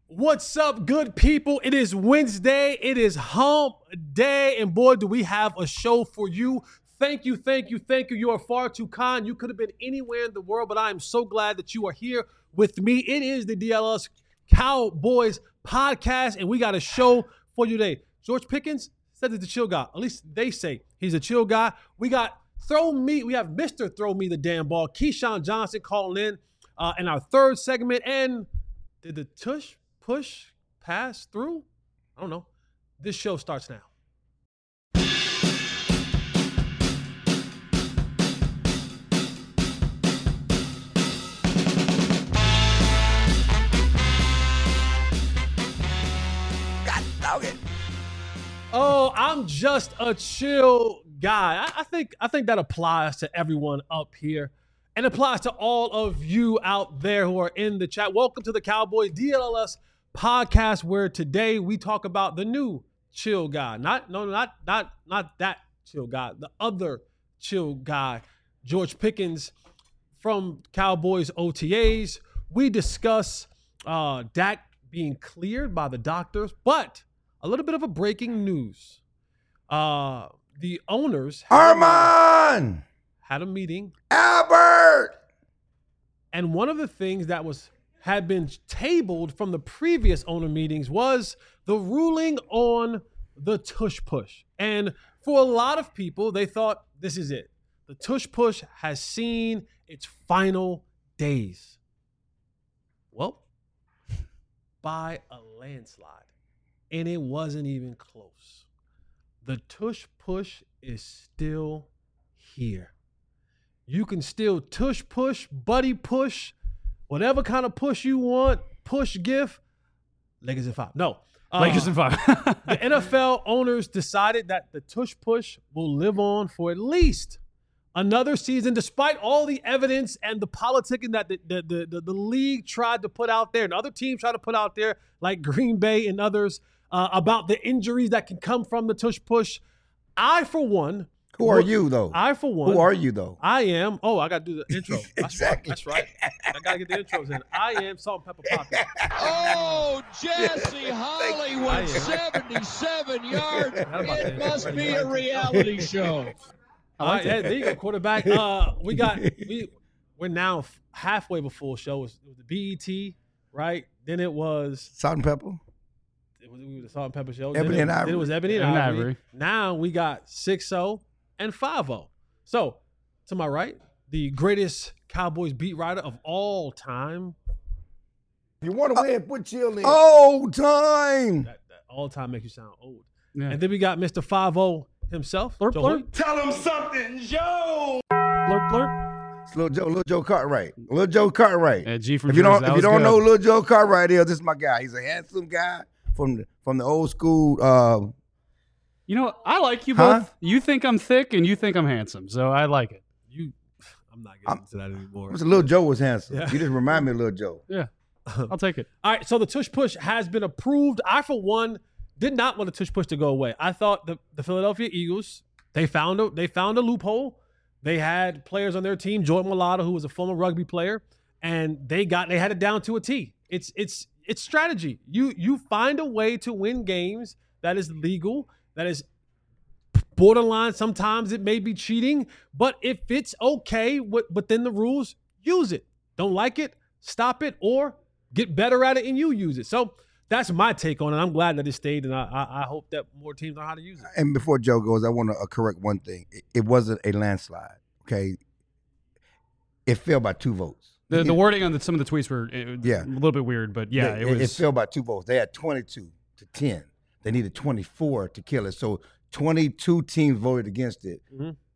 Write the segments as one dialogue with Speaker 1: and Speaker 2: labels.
Speaker 1: What's up, good people? It is Wednesday. It is hump day. And boy, do we have a show for you. Thank you. You are far too kind. You could have been anywhere in the world, but I am so glad that you are here with me. It is the DLS Cowboys podcast, and we got a show for you today. George Pickens said he's a chill guy. At least they say he's a chill guy. We got we have Mr. Throw Me the Damn Ball, Keyshawn Johnson calling in our third segment. And did the push pass through? I don't know. This show starts now.
Speaker 2: God dog it.
Speaker 1: Oh, I'm just a chill guy. I think that applies to everyone up here and applies to all of you out there who are in the chat. Welcome to the Cowboys DLS podcast, where today we talk about the new chill guy. Not that chill guy, the other chill guy, George Pickens from Cowboys OTAs. We discuss Dak being cleared by the doctors, but a little bit of a breaking news. The owners
Speaker 2: Armand!
Speaker 1: had a meeting.
Speaker 2: Albert!
Speaker 1: And one of the things that had been tabled from the previous owner meetings was the ruling on the tush push. And for a lot of people, they thought this is it. The tush push has seen its final days. Well, by a landslide. And it wasn't even close. The tush push is still here. You can still tush push, buddy push, whatever kind of push you want, push GIF, Lakers in 5. No.
Speaker 3: Lakers in 5.
Speaker 1: The NFL owners decided that the tush push will live on for at least another season, despite all the evidence and the politicking that the league tried to put out there and other teams tried to put out there, like Green Bay and others, about the injuries that can come from the tush push. I, for one.
Speaker 2: Who are you, though?
Speaker 1: I, for one.
Speaker 2: Who are you, though?
Speaker 1: I am. Oh, I got to do the intro.
Speaker 2: Exactly.
Speaker 1: That's right. I got to get the intros in. I am Salt and Pepper Poppy.
Speaker 4: Oh, Jesse Hollywood, 77 yards. It must be a reality show.
Speaker 1: All right, there you go, quarterback. We're now halfway of a full show. It was the BET, right? Then it was
Speaker 2: Salt and pepper?
Speaker 1: It was the Salt and Pepper show.
Speaker 2: Ebony and Ivory.
Speaker 1: Then it was Ebony and Ivory. Now we got 6-0 and 5-0. So, to my right, the greatest Cowboys beat writer of all time.
Speaker 2: You want to win, put chill in. Old time.
Speaker 1: That all time makes you sound old.
Speaker 3: Yeah.
Speaker 1: And then we got Mr. 5-0 himself.
Speaker 3: Blurp,
Speaker 1: Joe
Speaker 3: blurp.
Speaker 1: Hoyt.
Speaker 5: Tell him something, Joe.
Speaker 3: Blurp, blurp.
Speaker 2: It's Little Joe Cartwright. Little Joe Cartwright.
Speaker 3: Yeah, G from
Speaker 2: If you
Speaker 3: Jersey,
Speaker 2: don't,
Speaker 3: that
Speaker 2: if you
Speaker 3: was
Speaker 2: don't
Speaker 3: good.
Speaker 2: know who Little Joe Cartwright is, this is my guy. He's a handsome guy from the old school.
Speaker 3: You know, I like you
Speaker 2: Huh?
Speaker 3: both. You think I'm thick and you think I'm handsome, so I like it.
Speaker 1: I'm not getting into that anymore.
Speaker 2: Little Joe was handsome.
Speaker 1: Yeah.
Speaker 2: You just remind me of Little Joe.
Speaker 3: Yeah, I'll take it.
Speaker 1: All right, so the tush push has been approved. I, for one, did not want the tush push to go away. I thought the Philadelphia Eagles, they found a loophole. They had players on their team, Jordan Mailata, who was a former rugby player, and they had it down to a T. It's strategy. You find a way to win games that is legal, that is borderline. Sometimes it may be cheating, but if it's okay within the rules, use it. Don't like it, stop it, or get better at it and you use it. So that's my take on it. I'm glad that it stayed, and I hope that more teams know how to use it.
Speaker 2: And before Joe goes, I want to correct one thing. It wasn't a landslide, okay? It fell by 2 votes.
Speaker 3: The wording on some of the tweets were a
Speaker 2: Yeah.
Speaker 3: little bit weird, but yeah, it was.
Speaker 2: It fell by 2 votes. They had 22 to 10. They needed 24 to kill it. So 22 teams voted against it,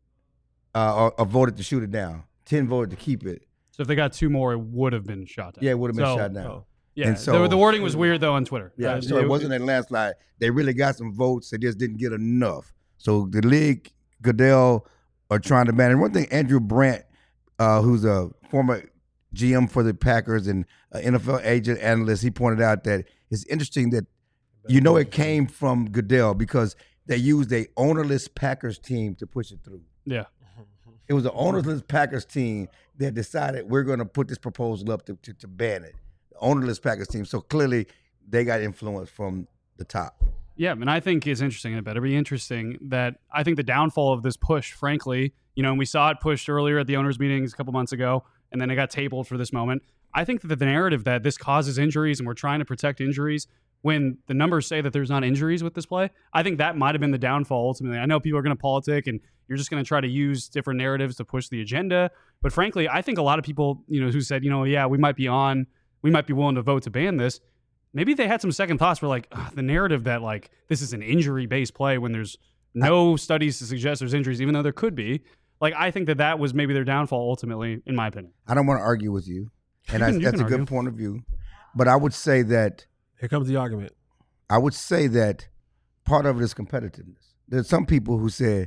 Speaker 2: or voted to shoot it down. 10 voted to keep it.
Speaker 3: So if they got 2 more, it would have been shot down.
Speaker 2: Yeah, it would have been
Speaker 3: So,
Speaker 2: shot down.
Speaker 1: oh.
Speaker 3: Yeah,
Speaker 2: And so-
Speaker 3: the wording was weird though on Twitter.
Speaker 2: Yeah, so it wasn't a landslide. They really got some votes. They just didn't get enough. So the league, Goodell, are trying to manage. One thing, Andrew Brandt, who's a former GM for the Packers and NFL agent analyst, he pointed out that it's interesting that it came from Goodell because they used a ownerless Packers team to push it through.
Speaker 3: Yeah.
Speaker 2: It was an ownerless Packers team that decided we're going to put this proposal up to ban it. The ownerless Packers team. So clearly they got influence from the top.
Speaker 3: Yeah, and I think it's interesting. It better be interesting that I think the downfall of this push, frankly, and we saw it pushed earlier at the owners' meetings a couple months ago, and then it got tabled for this moment. I think that the narrative that this causes injuries and we're trying to protect injuries when the numbers say that there's not injuries with this play, I think that might have been the downfall ultimately. I know people are going to politic and you're just going to try to use different narratives to push the agenda. But frankly, I think a lot of people, who said, yeah, we might be willing to vote to ban this. Maybe they had some second thoughts for the narrative that this is an injury-based play when there's no studies to suggest there's injuries, even though there could be. I think that was maybe their downfall ultimately, in my opinion.
Speaker 2: I don't want to argue with you, and that's a good point of view. But I would say that
Speaker 1: here comes the argument.
Speaker 2: I would say that part of it is competitiveness. There's some people who say,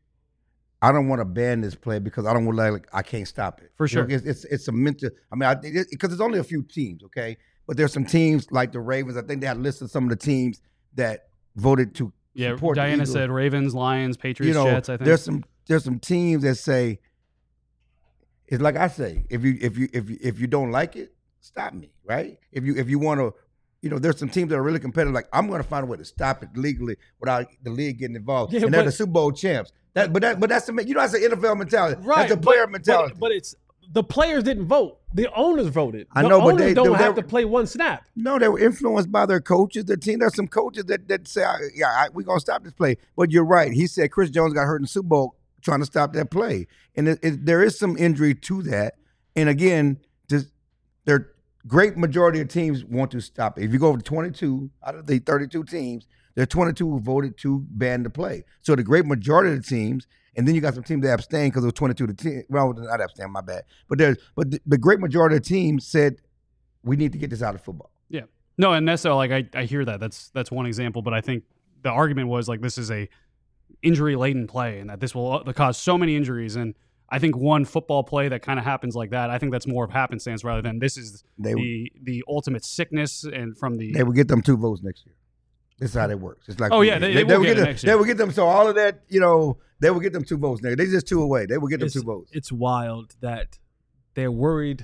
Speaker 2: I don't want to ban this play because I don't want I can't stop it.
Speaker 3: For sure.
Speaker 2: It's a mental. I mean, because there's only a few teams, okay? But there's some teams like the Ravens. I think they had listed some of the teams that voted to support
Speaker 3: Diana
Speaker 2: the Eagles.
Speaker 3: said Ravens, Lions, Patriots, Jets, I think.
Speaker 2: There's some teams that say, it's like I say, if you don't like it, stop me, right? If you want to, there's some teams that are really competitive. I'm going to find a way to stop it legally without the league getting involved.
Speaker 1: Yeah,
Speaker 2: and they're the Super Bowl champs. But that's that's an NFL mentality.
Speaker 1: Right,
Speaker 2: that's a player mentality.
Speaker 1: But it's the players didn't vote. The owners voted.
Speaker 2: I know,
Speaker 1: but
Speaker 2: owners
Speaker 1: don't have to play one snap.
Speaker 2: No, they were influenced by their coaches. The team. There's some coaches that say, we're going to stop this play. But you're right. He said Chris Jones got hurt in the Super Bowl trying to stop that play. And there is some injury to that. And again, their great majority of teams want to stop it. If you go over to 22 out of the 32 teams, there are 22 who voted to ban the play. So the great majority of the teams, and then you got some teams that abstained because it was 22 to 10. Well, not abstain, my bad. But the great majority of the teams said, we need to get this out of football.
Speaker 3: Yeah. No, and that's I hear that. That's one example. But I think the argument was this is a injury-laden play and that this will cause so many injuries. And I think one football play that kind of happens like that, I think that's more of happenstance rather than this is the ultimate sickness and from the...
Speaker 2: They will get them 2 votes next year. This is how that works. It's like
Speaker 3: they will get them next year.
Speaker 2: They will get them. So all of that, they will get them 2 votes next year. They're just 2 away. They will get them 2 votes.
Speaker 1: It's wild that they're worried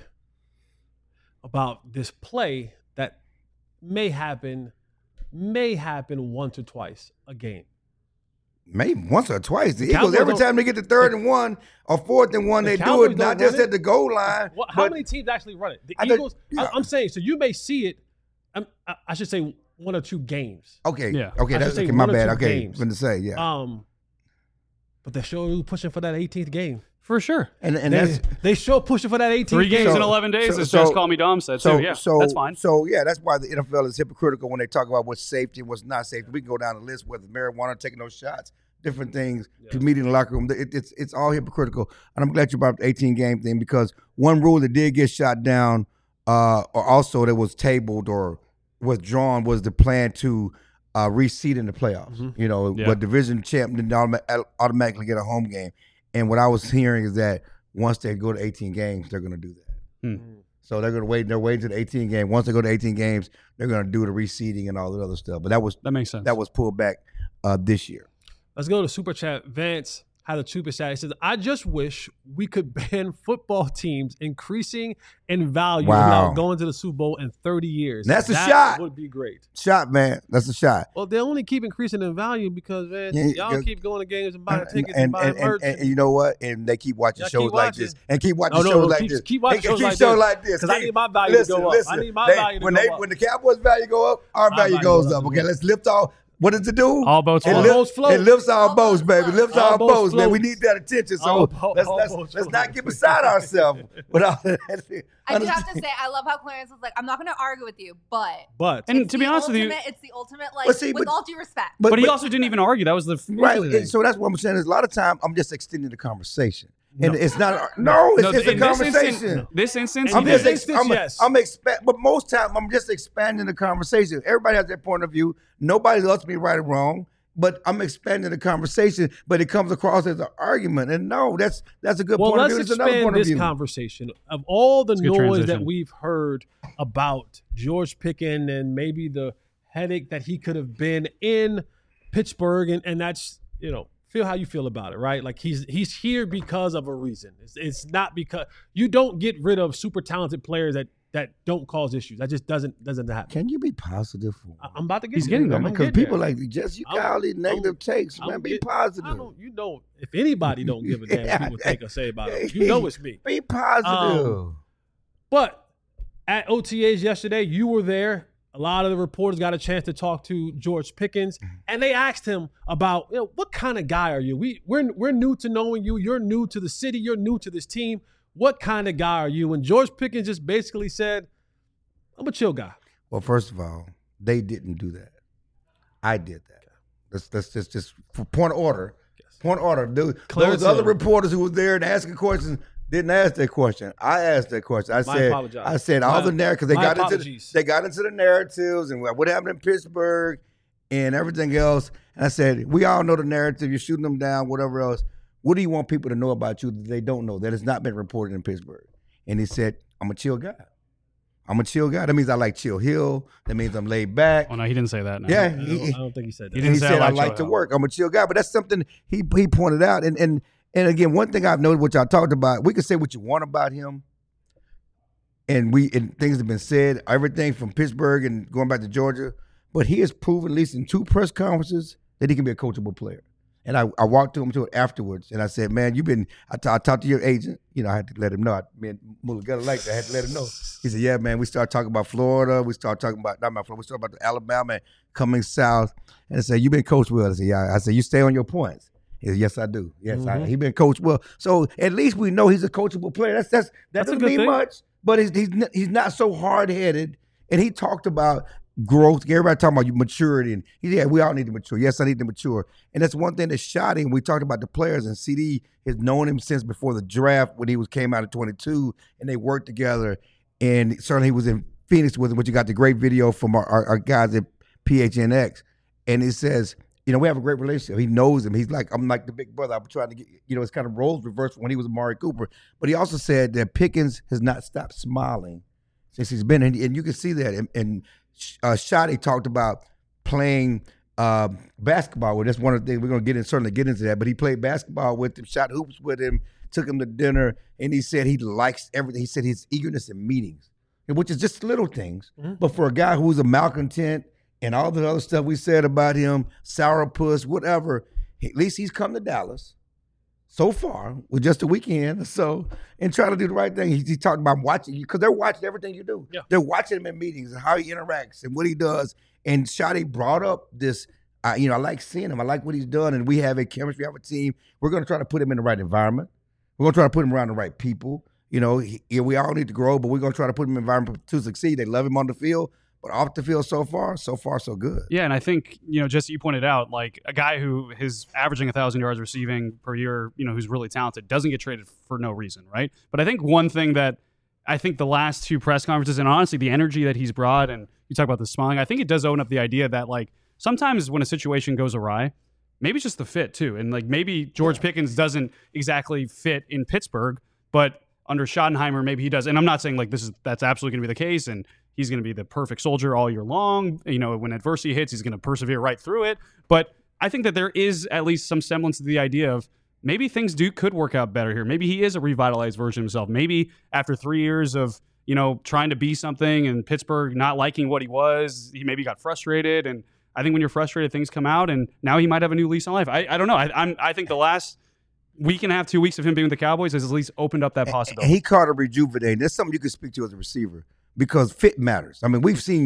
Speaker 1: about this play that may happen once or twice a game.
Speaker 2: Maybe once or twice. The Eagles, every time they get to 3rd and 1 or 4th and 1, they do it not just at the goal line.
Speaker 1: How many teams actually run it? The Eagles. I'm saying so. You may see it. I should say 1 or 2 games.
Speaker 2: Okay.
Speaker 3: Yeah.
Speaker 2: Okay. That's okay. My bad. Okay. I'm going to say
Speaker 1: But they're sure pushing for that 18th game.
Speaker 3: For sure.
Speaker 2: And
Speaker 1: they sure pushing for that 18th
Speaker 3: 3
Speaker 1: game.
Speaker 3: games in 11 days, as Just Call Me Dom said. So that's fine.
Speaker 2: So, that's why the NFL is hypocritical when they talk about what's safety and what's not safety. We can go down the list, whether marijuana, taking those shots, different things, meeting in the locker room. It's all hypocritical. And I'm glad you brought up the 18-game thing because one rule that did get shot down or also that was tabled or withdrawn was the plan to reseed in the playoffs.
Speaker 1: Mm-hmm.
Speaker 2: But division champ didn't automatically get a home game. And what I was hearing is that once they go to 18 games, they're going to do that. So they're going to wait. They're waiting to the 18 game. Once they go to 18 games, they're going to do the reseeding and all the other stuff. But that
Speaker 3: makes sense.
Speaker 2: That was pulled back this year.
Speaker 1: Let's go to Super Chat. Vance had a Super Chat. He says, I just wish we could ban football teams increasing in value without going to the Super Bowl in 30 years.
Speaker 2: That's a shot.
Speaker 1: That would be great.
Speaker 2: Shot, man. That's a shot.
Speaker 1: Well, they only keep increasing in value because, man, y'all keep going to games and buying tickets and buying merch.
Speaker 2: And you know what? And they keep watching shows like this. And keep watching
Speaker 1: shows
Speaker 2: like this.
Speaker 1: Keep watching shows like this. Because I need my value to go up. I need my value to go up.
Speaker 2: When the Cowboys' value go up, our value goes up. Okay, let's lift off. What does it do?
Speaker 3: All boats float.
Speaker 2: It lifts our boats, baby. It lifts our boats, man. We need that attention. So let's not get beside ourselves with all that.
Speaker 6: I do have to say, I love how Clarence was like, I'm not going to argue with you, but.
Speaker 3: And to be honest with you.
Speaker 6: It's the ultimate, with all due respect.
Speaker 3: But he also didn't even argue. That was the
Speaker 2: right. So that's what I'm saying is a lot of time I'm just extending the conversation. And it's not. It's a conversation.
Speaker 3: This instance,
Speaker 1: yes.
Speaker 2: But most time I'm just expanding the conversation. Everybody has their point of view. Nobody loves me right or wrong. But I'm expanding the conversation. But it comes across as an argument. And no, that's a good point of view.
Speaker 1: Let's expand this conversation. Of all the noise that we've heard about George Pickens and maybe the headache that he could have been in Pittsburgh, and that's feel how you feel about it, right? Like he's here because of a reason. It's not because you don't get rid of super talented players that that don't cause issues. That just doesn't happen.
Speaker 2: Can you be positive?
Speaker 1: I'm about to get
Speaker 3: He's
Speaker 1: there.
Speaker 3: getting there.
Speaker 2: Because people like Jesse, you got all these negative takes, man. Be positive.
Speaker 1: If anybody don't give a damn what people think or say about it, you know it's me.
Speaker 2: Be positive.
Speaker 1: But at OTAs yesterday, you were there. A lot of the reporters got a chance to talk to George Pickens, and they asked him about, what kind of guy are you? We're new to knowing you. You're new to the city. You're new to this team. What kind of guy are you? And George Pickens just basically said, I'm a chill guy.
Speaker 2: Well, first of all, they didn't do that. I did that. That's just for point of order. Yes. Point of order. Those other reporters who were there and asking questions didn't ask that question. I asked that question. I said all the narratives. They got into the narratives and what happened in Pittsburgh and everything else. And I said, we all know the narrative. You're shooting them down, whatever else. What do you want people to know about you that they don't know, that has not been reported in Pittsburgh? And he said, I'm a chill guy. I'm a chill guy. That means I like Chill Hill. That means I'm laid back.
Speaker 3: Oh, no, he didn't say that. No.
Speaker 2: Yeah.
Speaker 1: I don't think he said that.
Speaker 2: He said, I like to work. I'm a chill guy. But that's something he pointed out. And again, one thing I've noticed, which I talked about, we can say what you want about him. And things have been said, everything from Pittsburgh and going back to Georgia. But he has proven, at least in 2 press conferences, that he can be a coachable player. And I walked to him afterwards, and I said, man, I talked to your agent. I had to let him know. Me and Mulugeta liked it. I had to let him know. He said, yeah, man, we started talking about Florida. We started talking about, we started about Alabama and coming south. And I said, you been coached well? I said, yeah. I said, you stay on your points. He said, yes, I do. Yes, he been coached well. So at least we know he's a coachable player. That doesn't mean much, but he's not so hard-headed. And he talked about growth. Everybody talking about maturity, and we all need to mature. Yes, I need to mature, and that's one thing that shot him. We talked about the players, and CD has known him since before the draft when he came out at 22, and they worked together. And certainly he was in Phoenix with him, which you got the great video from our guys at PHNX, and he says, we have a great relationship. He knows him. He's like, I'm like the big brother. I'm trying to get, it's kind of roles reversed when he was Amari Cooper. But he also said that Pickens has not stopped smiling since he's been in, and you can see that. And Shotty talked about playing basketball with. That's one of the things we're going to certainly get into that. But he played basketball with him, shot hoops with him, took him to dinner, and he said he likes everything. He said his eagerness in meetings, which is just little things. Mm-hmm. But for a guy who's a malcontent and all the other stuff we said about him, sourpuss, whatever, at least he's come to Dallas so far with just a weekend or so and trying to do the right thing. He talked about watching you because they're watching everything you do. Yeah. They're watching him in meetings and how he interacts and what he does. And Shotty brought up this, I like seeing him. I like what he's done. And we have a chemistry, we have a team. We're going to try to put him in the right environment. We're going to try to put him around the right people. We all need to grow, but we're going to try to put him in an environment to succeed. They love him on the field. But off the field so far, so good. Yeah,
Speaker 3: and I think, just you pointed out, like a guy who is averaging 1,000 yards receiving per year, who's really talented, doesn't get traded for no reason, right? But I think one thing that I think the last 2 press conferences, and honestly the energy that he's brought, and you talk about the smiling, I think it does open up the idea that, like, sometimes when a situation goes awry, maybe it's just the fit too. And, like, maybe George Pickens doesn't exactly fit in Pittsburgh, but under Schottenheimer, maybe he does. And I'm not saying, like, that's absolutely going to be the case, and he's going to be the perfect soldier all year long. When adversity hits, he's going to persevere right through it. But I think that there is at least some semblance to the idea of maybe things could work out better here. Maybe he is a revitalized version of himself. Maybe after 3 years of, trying to be something and Pittsburgh not liking what he was, he maybe got frustrated. And I think when you're frustrated, things come out, and now he might have a new lease on life. I don't know. I think the last week and a half, 2 weeks of him being with the Cowboys has at least opened up that possibility.
Speaker 2: And he caught a rejuvenate. That's something you can speak to as a receiver. Because fit matters. I mean,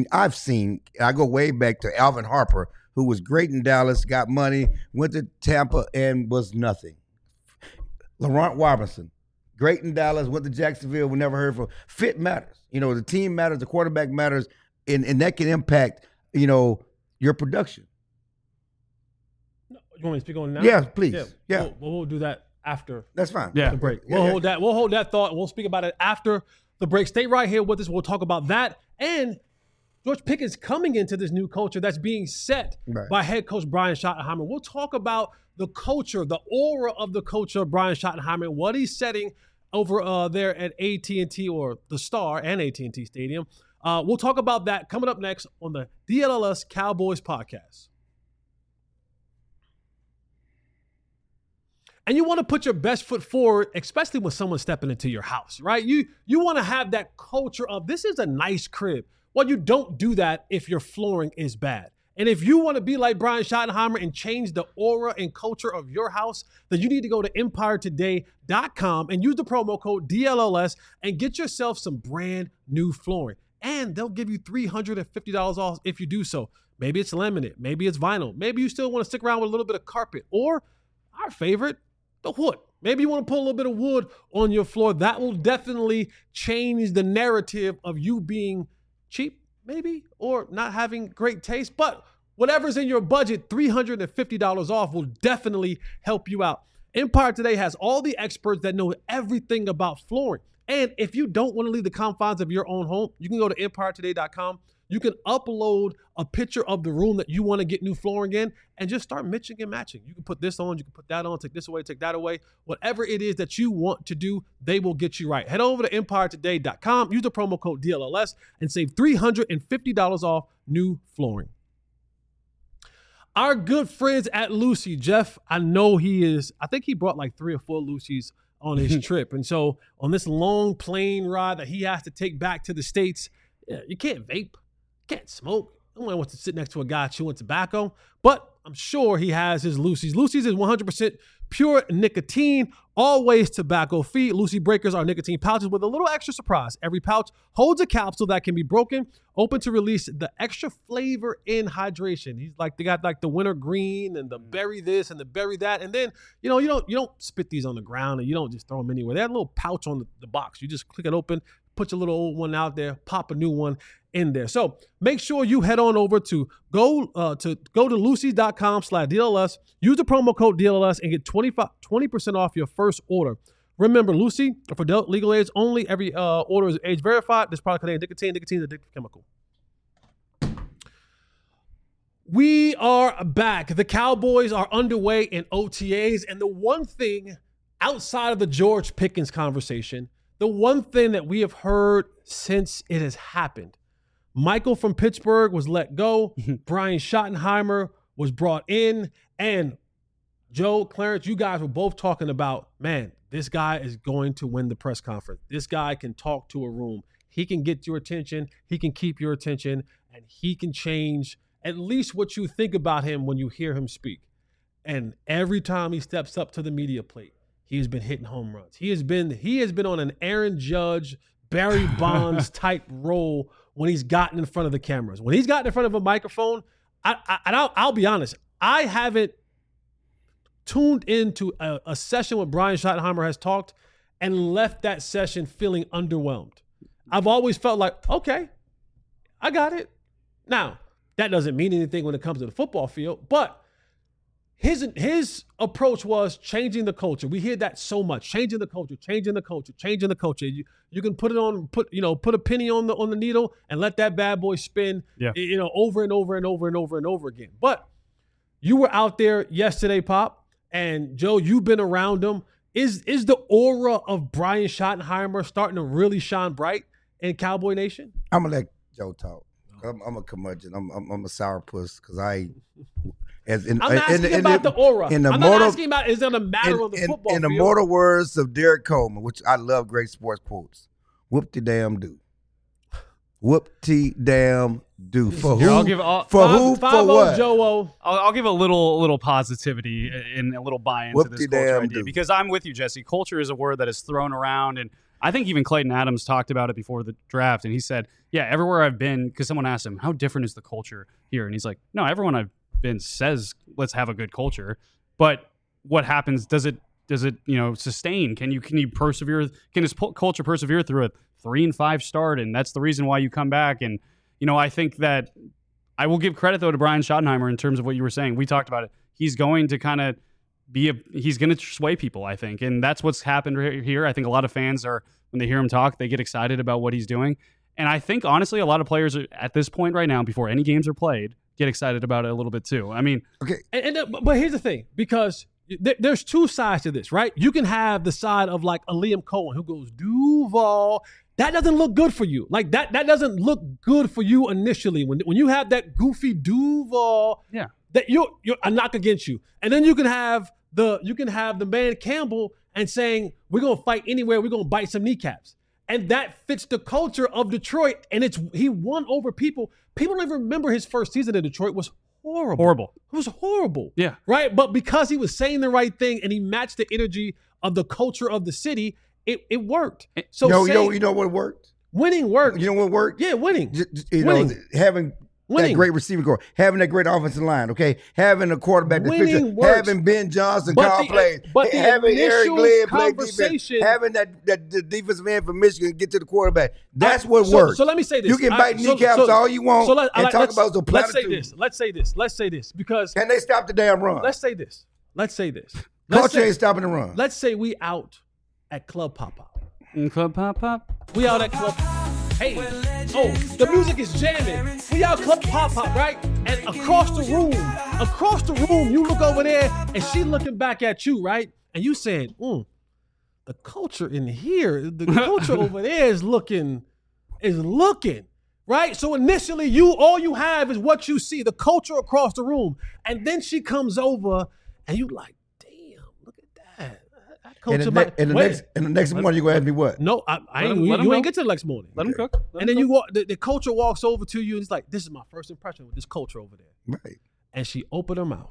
Speaker 2: I go way back to Alvin Harper, who was great in Dallas, got money, went to Tampa, and was nothing. Laurent Robinson, great in Dallas, went to Jacksonville, we never heard from. Fit matters. The team matters, the quarterback matters, and that can impact, your production.
Speaker 1: You want me to speak on it now?
Speaker 2: Yeah, please. Yeah.
Speaker 1: We'll do that after.
Speaker 2: That's fine.
Speaker 1: The break. We'll hold that thought. We'll speak about it after the break. Stay right here with us. We'll talk about that and George Pickens coming into this new culture that's being set by head coach Brian Schottenheimer. We'll talk about the culture, the aura of the culture of Brian Schottenheimer, what he's setting over there at AT&T, or the Star and AT&T Stadium. We'll talk about that coming up next on the DLLS Cowboys podcast. and you want to put your best foot forward, especially when someone's stepping into your house, right? You want to have that culture of this is a nice crib. Well, you don't do that if your flooring is bad. And if you want to be like Brian Schottenheimer and change the aura and culture of your house, then you need to go to EmpireToday.com and use the promo code DLLS and get yourself some brand new flooring. And they'll give you $350 off if you do so. Maybe it's laminate, maybe it's vinyl. Maybe you still want to stick around with a little bit of carpet, or our favorite, the wood. Maybe you want to put a little bit of wood on your floor. That will definitely change the narrative of you being cheap, maybe, or not having great taste. But whatever's in your budget, $350 off will definitely help you out. Empire Today has all the experts that know everything about flooring. And if you don't want to leave the confines of your own home, you can go to EmpireToday.com. You can upload a picture of the room that you want to get new flooring in and just start mixing and matching. You can put this on, you can put that on, take this away, take that away. Whatever it is that you want to do, they will get you right. Head over to EmpireToday.com, use the promo code DLLS, and save $350 off new flooring. Our good friends at Lucy, Jeff, I know I think he brought like 3 or 4 Lucy's on his trip. And so on this long plane ride that he has to take back to the States, you can't vape. Can't smoke. No one wants to sit next to a guy chewing tobacco, but I'm sure he has his Lucy's. Lucy's is 100% pure nicotine, always tobacco-free. Lucy Breakers are nicotine pouches with a little extra surprise. Every pouch holds a capsule that can be broken, open to release the extra flavor and hydration. They got like the winter green and the berry this and the berry that. And then, you don't spit these on the ground and you don't just throw them anywhere. They have a little pouch on the box. You just click it open, put your little old one out there, pop a new one in there. So make sure you head on over to go to Lucy.com/DLS, use the promo code DLS and get 20% off your first order. Remember, Lucy, for adult legal age only, every order is age verified. This product contains nicotine. Nicotine is an addictive chemical. We are back. The Cowboys are underway in OTAs. And the one thing outside of the George Pickens conversation, the one thing that we have heard since it has happened, Michael from Pittsburgh was let go. Brian Schottenheimer was brought in. And Joe, Clarence, you guys were both talking about, man, this guy is going to win the press conference. This guy can talk to a room. He can get your attention. He can keep your attention. And he can change at least what you think about him when you hear him speak. And every time he steps up to the media plate, he has been hitting home runs. He has been on an Aaron Judge, Barry Bonds type role when he's gotten in front of the cameras. When he's gotten in front of a microphone, I'll be honest, I haven't tuned into a session where Brian Schottenheimer has talked and left that session feeling underwhelmed. I've always felt like, okay, I got it. Now, that doesn't mean anything when it comes to the football field, but his approach was changing the culture. We hear that so much, changing the culture. You can put a penny on the needle and let that bad boy spin, over and over again. But you were out there yesterday, Pop, and Joe, you've been around him. Is the aura of Brian Schottenheimer starting to really shine bright in Cowboy Nation?
Speaker 2: I'm gonna let Joe talk. I'm a curmudgeon. I'm a sourpuss because I'm asking
Speaker 1: about the aura. I'm not asking about is it a matter of the football
Speaker 2: field. In the mortal words of Derek Coleman, which I love great sports quotes, whoop-de-damn-do. Whoop-de-damn-do. For who? For what?
Speaker 1: Joe.
Speaker 3: I'll give a little positivity and a little buy into this culture idea because I'm with you, Jesse. Culture is a word that is thrown around, and I think even Clayton Adams talked about it before the draft, and he said, yeah, everywhere I've been, because someone asked him, how different is the culture here? And he's like, no, everyone I've been says, let's have a good culture. But what happens, does it sustain? Can you persevere? Can this culture persevere through a 3-5 start? And that's the reason why you come back. And, I think that I will give credit, though, to Brian Schottenheimer in terms of what you were saying. We talked about it. He's going to kind of he's going to sway people, I think. And that's what's happened here. I think a lot of fans when they hear him talk, they get excited about what he's doing. And I think, honestly, a lot of players at this point right now, before any games are played, get excited about it a little bit too. I mean,
Speaker 2: okay.
Speaker 1: But here's the thing, because there's two sides to this, right? You can have the side of like a Liam Cohen who goes, Duval. That doesn't look good for you. Like that doesn't look good for you initially. When you have that goofy Duval,
Speaker 3: yeah,
Speaker 1: that you're a knock against you. And then you can have the man Campbell and saying, we're going to fight anywhere, we're going to bite some kneecaps. And that fits the culture of Detroit. And he won over people. People don't even remember his first season in Detroit was horrible. It was horrible.
Speaker 3: Yeah.
Speaker 1: Right? But because he was saying the right thing and he matched the energy of the culture of the city, it worked. So
Speaker 2: you know what worked?
Speaker 1: Winning worked.
Speaker 2: You know what worked?
Speaker 1: Yeah, winning.
Speaker 2: Know, having that great receiving core, having that great offensive line, okay? Having a quarterback that's
Speaker 1: winning
Speaker 2: picture, having Ben Johnson call plays, having Eric Glenn play defense, having that defensive end from Michigan get to the quarterback. That's what works.
Speaker 1: So let me say this.
Speaker 2: You can bite kneecaps all you want and talk about the
Speaker 1: platitudes. Let's say this because
Speaker 2: can they stop the damn run?
Speaker 1: Let's say this.
Speaker 2: Culture ain't stopping the run.
Speaker 1: Let's say we out at Club Pop Pop.
Speaker 3: Club Pop Pop.
Speaker 1: We out at Club. Hey, the music is jamming. We out Club Pop Pop, right? And across the room, you look over there, and she looking back at you, right? And you saying, the culture in here, the culture over there is looking, right? So initially, all you have is what you see, the culture across the room, and then she comes over, and you like, damn, look at that.
Speaker 2: And the next morning, you gonna ask me what?
Speaker 1: No, you ain't get to the next morning.
Speaker 3: Let him cook.
Speaker 1: And then you walk. The culture walks over to you, and it's like, this is my first impression with this culture over there.
Speaker 2: Right.
Speaker 1: And she opened her mouth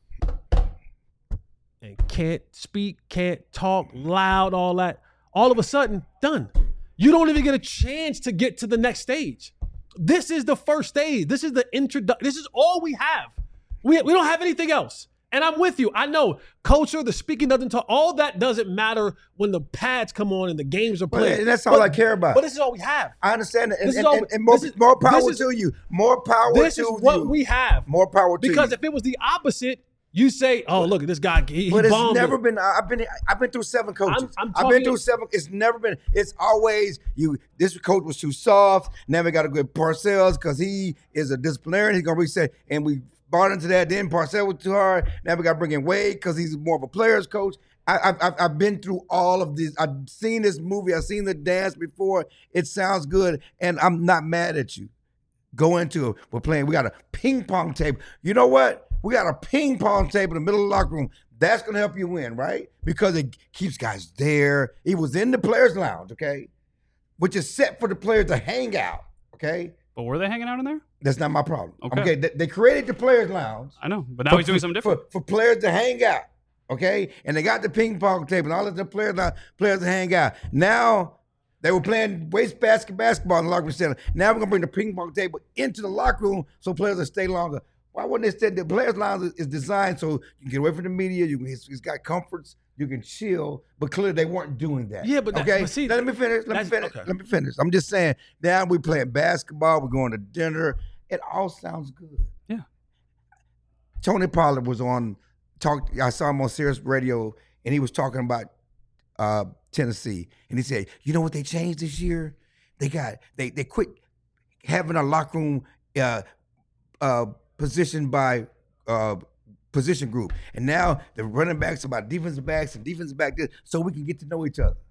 Speaker 1: and can't speak, can't talk, loud, all that. All of a sudden, done. You don't even get a chance to get to the next stage. This is the first stage. This is the introduction. This is all we have. We don't have anything else. And I'm with you. I know culture, the speaking doesn't talk. All that doesn't matter when the pads come on and the games are played.
Speaker 2: And that's all I care about.
Speaker 1: But this is all we have.
Speaker 2: I understand that. And more power to you. More power to you.
Speaker 1: This is what we have.
Speaker 2: More power to you.
Speaker 1: Because if it was the opposite, you say, "Oh, look at this guy. He
Speaker 2: but it's
Speaker 1: bombed
Speaker 2: never
Speaker 1: it.
Speaker 2: been. I've been through 7 coaches.
Speaker 1: I've
Speaker 2: been through 7. It's never been. It's always you. This coach was too soft. Now we got to go with Parcells because he is a disciplinarian. He's gonna reset, and we bought into that. Then Parcells was too hard. Now we got to bring in Wade because he's more of a player's coach. I've been through all of this. I've seen this movie. I've seen the dance before. It sounds good, and I'm not mad at you. Go into it. We're playing. We got a ping pong table. You know what? We got a ping pong table in the middle of the locker room. That's going to help you win, right? Because it keeps guys there. He was in the players' lounge, okay? Which is set for the players to hang out, okay?
Speaker 3: But were they hanging out in there?
Speaker 2: That's not my problem.
Speaker 3: Okay.
Speaker 2: They created the players' lounge.
Speaker 3: I know, but now he's doing something different.
Speaker 2: For players to hang out, okay? And they got the ping pong table and all of the players to hang out. Now, they were playing waste basketball in the locker room center. Now we're going to bring the ping pong table into the locker room so players will stay longer. Why wouldn't they stay? The players' lounge is designed so you can get away from the media. It's got comforts. You can chill. But clearly they weren't doing that.
Speaker 1: Yeah, but
Speaker 2: okay.
Speaker 1: See,
Speaker 2: let me finish. Let me finish. I'm just saying. Now we're playing basketball. We're going to dinner. It all sounds good.
Speaker 3: Yeah.
Speaker 2: Tony Pollard was on talk. I saw him on Sirius Radio, and he was talking about Tennessee, and he said, "You know what they changed this year? They quit having a locker room positioned by position group, and now the running backs are about defensive backs and defensive back this, so we can get to know each other."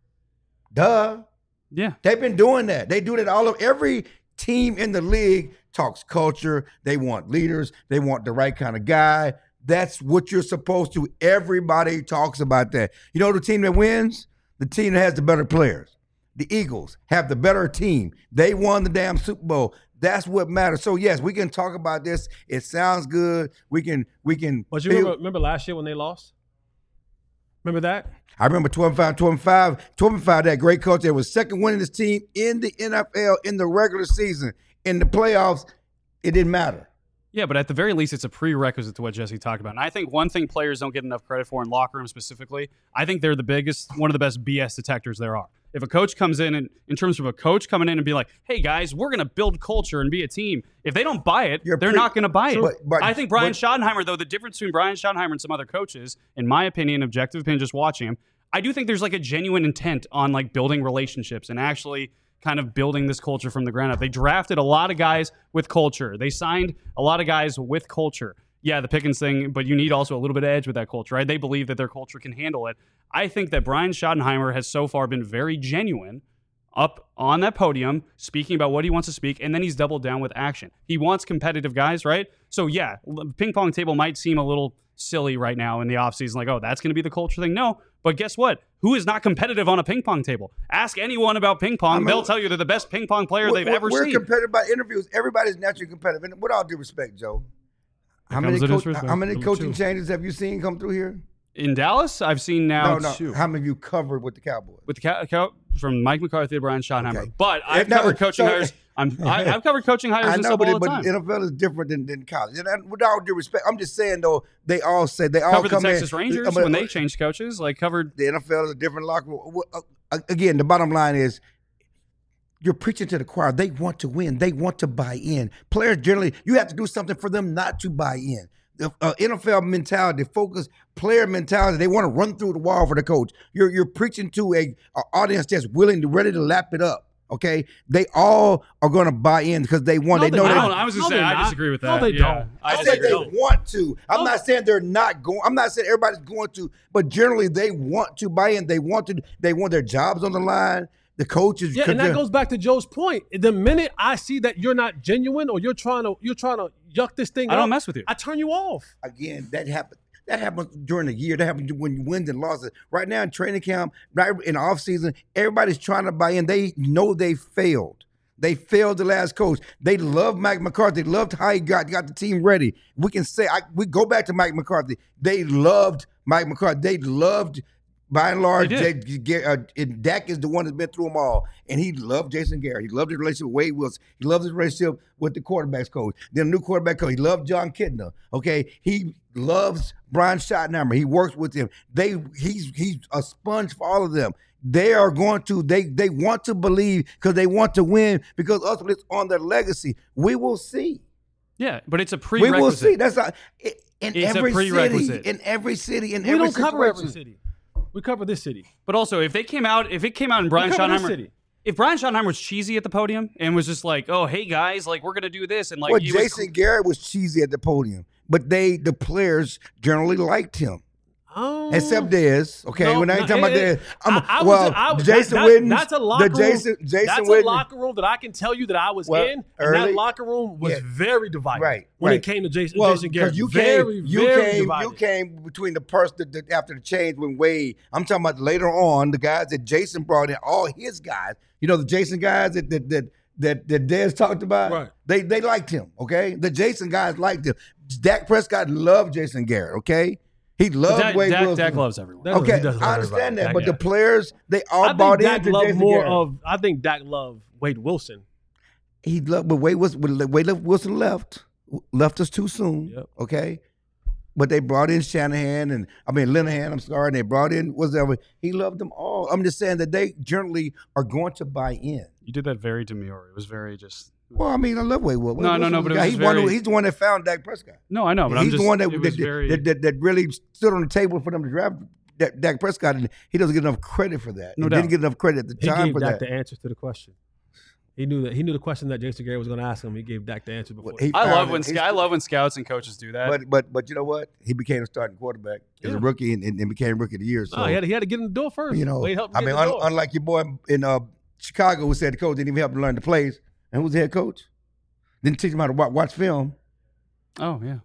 Speaker 2: Duh.
Speaker 3: Yeah,
Speaker 2: they've been doing that. They do that all of every team in the league talks culture. They want leaders. They want the right kind of guy. That's what you're supposed to. Everybody talks about that. You know the team that wins? The team that has the better players. The Eagles have the better team. They won the damn Super Bowl. That's what matters. So yes, we can talk about this. It sounds good. We can.
Speaker 1: But you remember last year when they lost? Remember that?
Speaker 2: I remember 12-5, that great coach that was second winningest team in the NFL in the regular season. In the playoffs, it didn't matter.
Speaker 3: Yeah, but at the very least, it's a prerequisite to what Jesse talked about. And I think one thing players don't get enough credit for in locker room specifically, I think they're one of the best BS detectors there are. If a coach comes in, and in terms of a coach coming in and be like, hey, guys, we're going to build culture and be a team. If they don't buy it, they're not going to buy it. But I think Brian Schottenheimer, though, the difference between Brian Schottenheimer and some other coaches, in my opinion, objective opinion, just watching him, I do think there's like a genuine intent on like building relationships and actually kind of building this culture from the ground up. They drafted a lot of guys with culture. They signed a lot of guys with culture. Yeah, the Pickens thing, but you need also a little bit of edge with that culture, right? They believe that their culture can handle it. I think that Brian Schottenheimer has so far been very genuine up on that podium, speaking about what he wants to speak, and then he's doubled down with action. He wants competitive guys, right? So yeah, ping pong table might seem a little silly right now in the offseason. Like, oh, that's going to be the culture thing. No, but guess what? Who is not competitive on a ping pong table? Ask anyone about ping pong. They'll tell you they're the best ping pong player they've ever seen.
Speaker 2: We're competitive by interviews. Everybody's naturally competitive. And with all due respect, Joe, how many coaching changes have you seen come through here?
Speaker 3: In Dallas, I've seen now two.
Speaker 2: How many have you covered with the Cowboys?
Speaker 3: With the from Mike McCarthy to Brian Schottenheimer. Okay. But I've covered coaching hires. I've covered coaching hires and stuff all the time.
Speaker 2: But NFL is different than college. And with all due respect, I'm just saying though, they all covered
Speaker 3: the Texas Rangers when they changed coaches. Like covered
Speaker 2: the NFL is a different locker room. Again, the bottom line is, you're preaching to the choir. They want to win. They want to buy in. Players generally, you have to do something for them not to buy in. The NFL mentality, focus, player mentality, they want to run through the wall for the coach. You're preaching to an audience that's ready to lap it up. Okay, they all are going to buy in because they want.
Speaker 3: No, they know. I was just saying, I disagree with that.
Speaker 1: No, they don't.
Speaker 2: I said they want to. I'm not saying they're not going. I'm not saying everybody's going to, but generally they want to buy in. They want to. They want their jobs on the line. The coaches.
Speaker 1: Yeah, and that goes back to Joe's point. The minute I see that you're not genuine or you're trying to yuck this thing up,
Speaker 3: I don't mess with you.
Speaker 1: I turn you off.
Speaker 2: Again, that happens. That happens during the year. That happens when you win and losses. Right now in training camp, right in the offseason, everybody's trying to buy in. They know they failed. They failed the last coach. They loved Mike McCarthy. They loved how he got the team ready. We can say, we go back to Mike McCarthy. They loved Mike McCarthy. They loved, by and large, Dak is the one that's been through them all. And he loved Jason Garrett. He loved his relationship with Wade Wilson. He loved his relationship with the quarterbacks coach. Then the new quarterback coach. He loved John Kitna. Okay, he loves Brian Schottenheimer. He works with him. He's a sponge for all of them. They are going to, they want to believe because they want to win because ultimately it's on their legacy. We will see.
Speaker 3: Yeah, but it's a prerequisite.
Speaker 2: We will see. That's not, in
Speaker 3: it's
Speaker 2: every
Speaker 3: a prerequisite.
Speaker 2: City, in every city, in
Speaker 1: we
Speaker 2: every
Speaker 1: don't
Speaker 2: situation.
Speaker 1: cover every city. We cover this city.
Speaker 3: But also, if it came out and Brian Schottenheimer, if Brian Schottenheimer was cheesy at the podium and was just like, "Oh, hey guys, like we're gonna do this," and like,
Speaker 2: Jason Garrett was cheesy at the podium, but the players generally liked him.
Speaker 1: Oh.
Speaker 2: Except Dez, okay.
Speaker 1: No,
Speaker 2: when I ain't talking
Speaker 1: about
Speaker 2: Dez, Jason Witten.
Speaker 1: That's a locker room.
Speaker 2: Jason
Speaker 1: that's
Speaker 2: Witten.
Speaker 1: a locker room that I can tell you that I was in, and that locker room was very divided. When it came to Jason Garrett,
Speaker 2: you came between the person after the change when Wade. I'm talking about later on the guys that Jason brought in, all his guys. You know the Jason guys that Dez talked about.
Speaker 1: Right.
Speaker 2: They liked him. Okay, the Jason guys liked him. Dak Prescott loved Jason Garrett. Okay. He loved Wade Wilson.
Speaker 3: Dak loves everyone.
Speaker 2: Okay, I understand that, but the players, they all bought into Jason Garrett.
Speaker 1: I think Dak loved Wade Wilson.
Speaker 2: He loved, but Wade Wilson left us too soon.
Speaker 1: Yep.
Speaker 2: Okay, but they brought in Linehan. I'm sorry, and they brought in whatever. He loved them all. I'm just saying that they generally are going to buy in.
Speaker 3: You did that very demure. It was very just.
Speaker 2: Well, I mean, I love Wade Wilson.
Speaker 3: No, but
Speaker 2: he's the one that found Dak Prescott.
Speaker 3: No, I know, but
Speaker 2: he's the one that really stood on the table for them to draft Dak Prescott, and he doesn't get enough credit for that. He didn't get enough credit at the time for that.
Speaker 1: He gave Dak the answers to the question. He knew the question that Jason Garrett was going to ask him. He gave Dak the answer before.
Speaker 3: I love when scouts and coaches do that.
Speaker 2: But you know what? He became a starting quarterback as a rookie and became rookie of the year. So
Speaker 1: he had to get in the door first.
Speaker 2: You know,
Speaker 1: Wade
Speaker 2: unlike your boy in Chicago who said the coach didn't even help him learn the plays, and who's the head coach? Didn't teach him how to watch film.
Speaker 3: Oh yeah.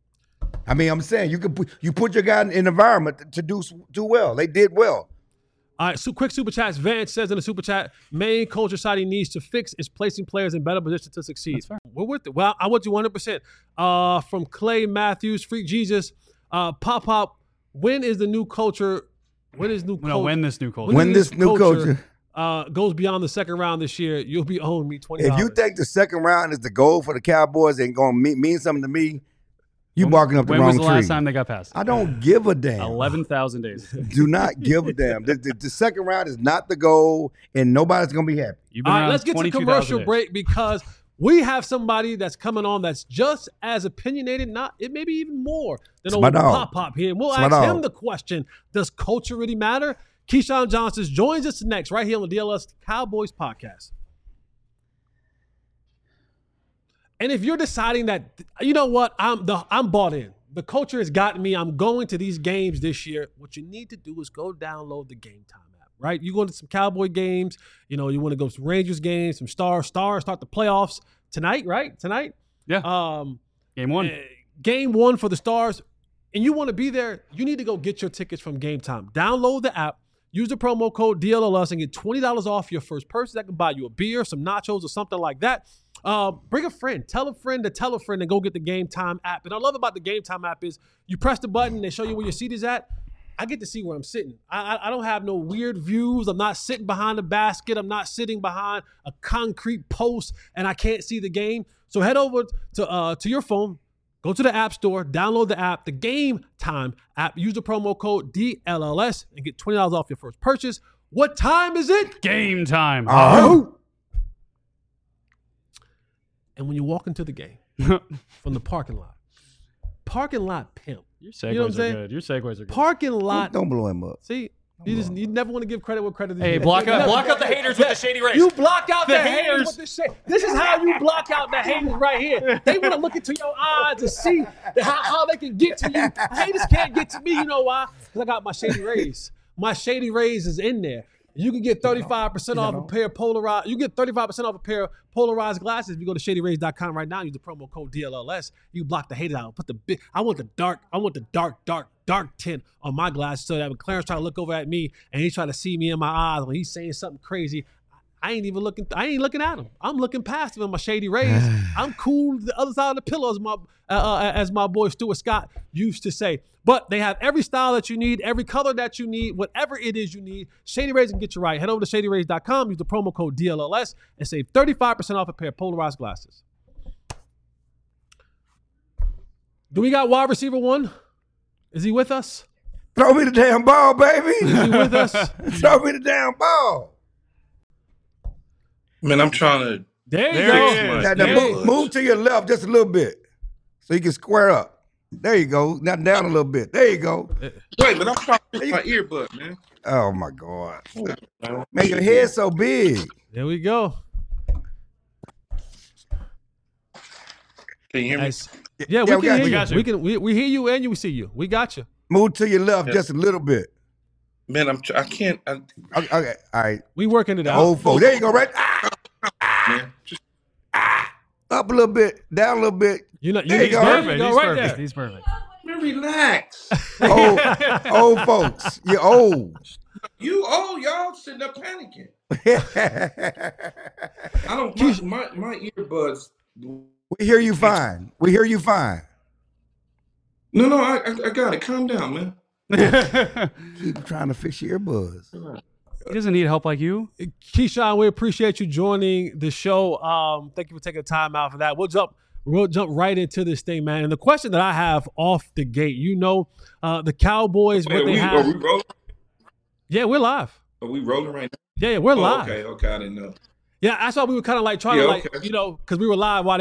Speaker 2: I mean, I'm saying you put your guy in an environment to do well. They did well.
Speaker 1: All right, so quick super chats. Vance says in the super chat, main culture society needs to fix is placing players in better positions to succeed.
Speaker 3: That's fair.
Speaker 1: We're with it. Well, I would do 100%. From Clay Matthews, Freak Jesus, Pop. When is the new culture? When is new?
Speaker 3: No, when this new culture?
Speaker 2: When this new culture
Speaker 1: goes beyond the second round this year, you'll be owing me $20.
Speaker 2: If you think the second round is the goal for the Cowboys and going to mean something to me, you barking up the wrong tree.
Speaker 3: When was the last time they got past?
Speaker 2: I don't give a damn.
Speaker 3: 11,000 days.
Speaker 2: Do not give a damn. The second round is not the goal, and nobody's going to be happy.
Speaker 1: All right, let's get to commercial break because we have somebody that's coming on that's just as opinionated, it may be even more than old Pop here. And we'll ask him the question, does culture really matter? Keyshawn Johnson joins us next right here on the DLS Cowboys podcast. And if you're deciding that, you know what, I'm bought in. The culture has gotten me. I'm going to these games this year. What you need to do is go download the Game Time app, right? You go to some Cowboy games. You know, you want to go to some Rangers games, some Stars start the playoffs tonight, right? Tonight?
Speaker 3: Yeah. Game one.
Speaker 1: Game one for the Stars. and you want to be there, you need to go get your tickets from Game Time. Download the app, use the promo code DLLS, and get $20 off your first purchase. That can buy you a beer, some nachos, or something like that. Bring a friend, tell a friend to tell a friend, and go get the Game Time app. And I love about the Game Time app is you press the button, they show you where your seat is at. I get to see where I'm sitting. I don't have no weird views. I'm not sitting behind a basket. I'm not sitting behind a concrete post, and I can't see the game. So head over to your phone, go to the App Store, download the app, the Game Time app. Use the promo code DLLS and get $20 off your first purchase. What time is it?
Speaker 3: Game time.
Speaker 1: And when you walk into the game from the parking lot pimp.
Speaker 3: Your segues
Speaker 1: You know what I'm
Speaker 3: are
Speaker 1: saying?
Speaker 3: good. Your segues are good.
Speaker 1: Parking lot.
Speaker 2: Don't blow him up.
Speaker 1: See, you never want to give credit where credit is
Speaker 3: Hey,
Speaker 1: due.
Speaker 3: block out the haters with the shady race.
Speaker 1: You block out the
Speaker 3: The
Speaker 1: haters
Speaker 3: haters.
Speaker 1: with the shade. This is how you block out the haters right here. They want to look into your eyes to see how they can get to you. Haters can't get to me. You know why? Because I got my Shady Rays. My Shady Rays is in there. You can get 35% off a pair of polarized. You get 35% off a pair of polarized glasses if you go to shadyrays.com right now. Use the promo code DLLS. You block the haters out. Put the big. I want the dark tint on my glasses so that when Clarence try to look over at me and he try to see me in my eyes when he's saying something crazy, I ain't looking at him. I'm looking past him in my Shady Rays. I'm cool the other side of the pillow, as my boy Stuart Scott used to say. But they have every style that you need, every color that you need, whatever it is you need. Shady Rays can get you right. Head over to shadyrays.com, use the promo code DLLS, and save 35% off a pair of polarized glasses. Do we got wide receiver one? Is he with us?
Speaker 2: Throw me the damn ball, baby.
Speaker 1: Is he with us?
Speaker 2: Throw me the damn ball.
Speaker 5: Man, I'm trying to.
Speaker 1: There you
Speaker 3: There
Speaker 1: go.
Speaker 3: he is.
Speaker 2: Now, move to your left just a little bit so you can square up. There you go. Now down a little bit. There you go.
Speaker 5: Wait, but I'm trying to fix my earbud, man.
Speaker 2: Oh, my God. Man, your head's so big.
Speaker 1: There we go.
Speaker 5: Can you hear me?
Speaker 1: Yeah,
Speaker 2: we
Speaker 1: we can
Speaker 2: got
Speaker 1: hear
Speaker 2: you.
Speaker 1: you. We can. We hear you and you see you. We got you.
Speaker 2: Move to your left just a little bit.
Speaker 5: Man, I can't.
Speaker 2: Okay, all right.
Speaker 1: We working it out.
Speaker 2: Old folks. There you go, right?
Speaker 5: Man, just
Speaker 2: Up a little bit, down a little bit.
Speaker 1: There
Speaker 2: There you go.
Speaker 3: Perfect.
Speaker 1: Go
Speaker 3: He's
Speaker 1: right
Speaker 3: perfect.
Speaker 1: there.
Speaker 3: He's perfect.
Speaker 5: man, relax.
Speaker 2: Old folks. You're old.
Speaker 5: You old, y'all sitting up panicking. I don't. My earbuds.
Speaker 2: We hear you fine. We hear you fine.
Speaker 5: No, I got it. Calm down, man.
Speaker 2: Keep trying to fix your earbuds.
Speaker 3: He doesn't need help like you.
Speaker 1: Keyshawn, we appreciate you joining the show. Thank you for taking the time out for that. We'll jump right into this thing, man. And the question that I have off the gate, the Cowboys,
Speaker 5: Wait,
Speaker 1: what they
Speaker 5: are we
Speaker 1: have.
Speaker 5: rolling?
Speaker 1: Yeah, we're live.
Speaker 5: Are we rolling right now?
Speaker 1: Yeah, we're live.
Speaker 5: Okay, I didn't know.
Speaker 1: Yeah, that's why we were kind of like trying to because we were live while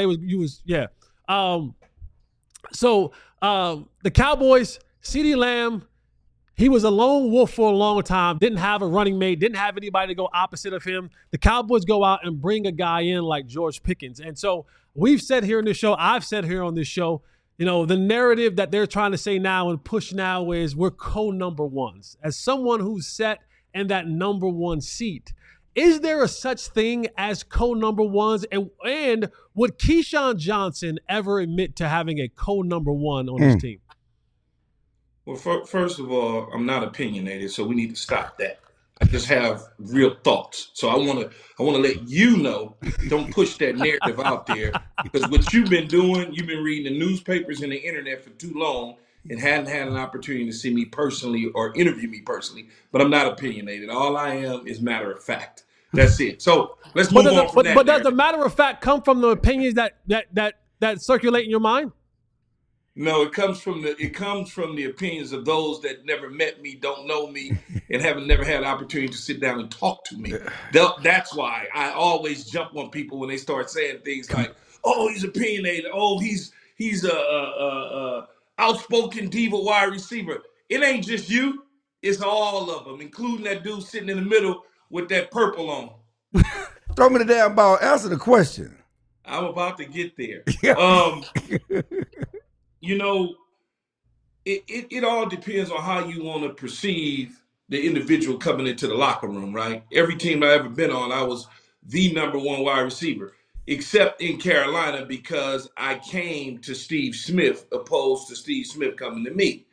Speaker 1: So the Cowboys, CeeDee Lamb, he was a lone wolf for a long time, didn't have a running mate, didn't have anybody to go opposite of him. The Cowboys go out and bring a guy in like George Pickens. And so we've said here in this show, I've said here on this show, the narrative that they're trying to say now and push now is we're co-number ones. As someone who's set in that number one seat, is there a such thing as co-number ones? And would Keyshawn Johnson ever admit to having a co-number one on his team?
Speaker 5: Well, first of all, I'm not opinionated, so we need to stop that. I just have real thoughts. So I want to let you know, don't push that narrative out there, because what you've been doing, you've been reading the newspapers and the internet for too long and hadn't had an opportunity to see me personally or interview me personally. But I'm not opinionated. All I am is matter of fact. That's it. So let's move on from that.
Speaker 1: But does the matter of fact come from the opinions that circulate in your mind?
Speaker 5: No, it comes from the opinions of those that never met me, don't know me, and never had an opportunity to sit down and talk to me. That's why I always jump on people when they start saying things like, "Oh, he's opinionated. Oh, he's a outspoken diva wide receiver." It ain't just you; it's all of them, including that dude sitting in the middle with that purple on.
Speaker 2: Throw me the damn ball. Answer the question.
Speaker 5: I'm about to get there. It all depends on how you want to perceive the individual coming into the locker room, right? Every team I've ever been on, I was the number one wide receiver, except in Carolina because I came to Steve Smith opposed to Steve Smith coming to me.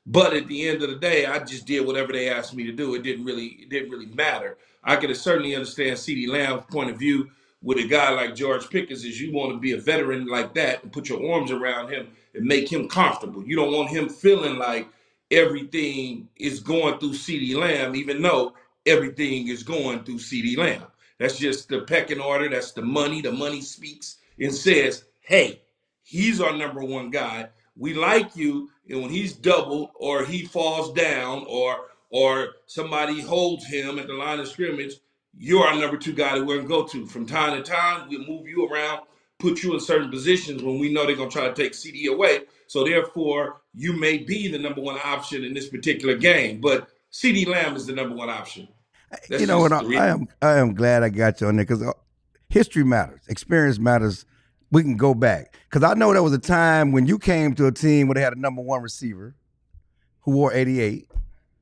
Speaker 5: But at the end of the day, I just did whatever they asked me to do. It didn't really matter. I could certainly understand CeeDee Lamb's point of view with a guy like George Pickens is you want to be a veteran like that and put your arms around him and make him comfortable. You don't want him feeling like everything is going through CeeDee Lamb, even though everything is going through CeeDee Lamb. That's just the pecking order. That's the money. The money speaks and says, hey, he's our number one guy. We like you, and when he's doubled or he falls down or somebody holds him at the line of scrimmage, you're our number two guy that we're gonna go to. From time to time, we'll move you around, put you in certain positions when we know they're gonna try to take CD away. So therefore, you may be the number one option in this particular game, but CeeDee Lamb is the number one option.
Speaker 2: That's what I am glad I got you on there because history matters, experience matters. We can go back because I know there was a time when you came to a team where they had a number one receiver who wore 88.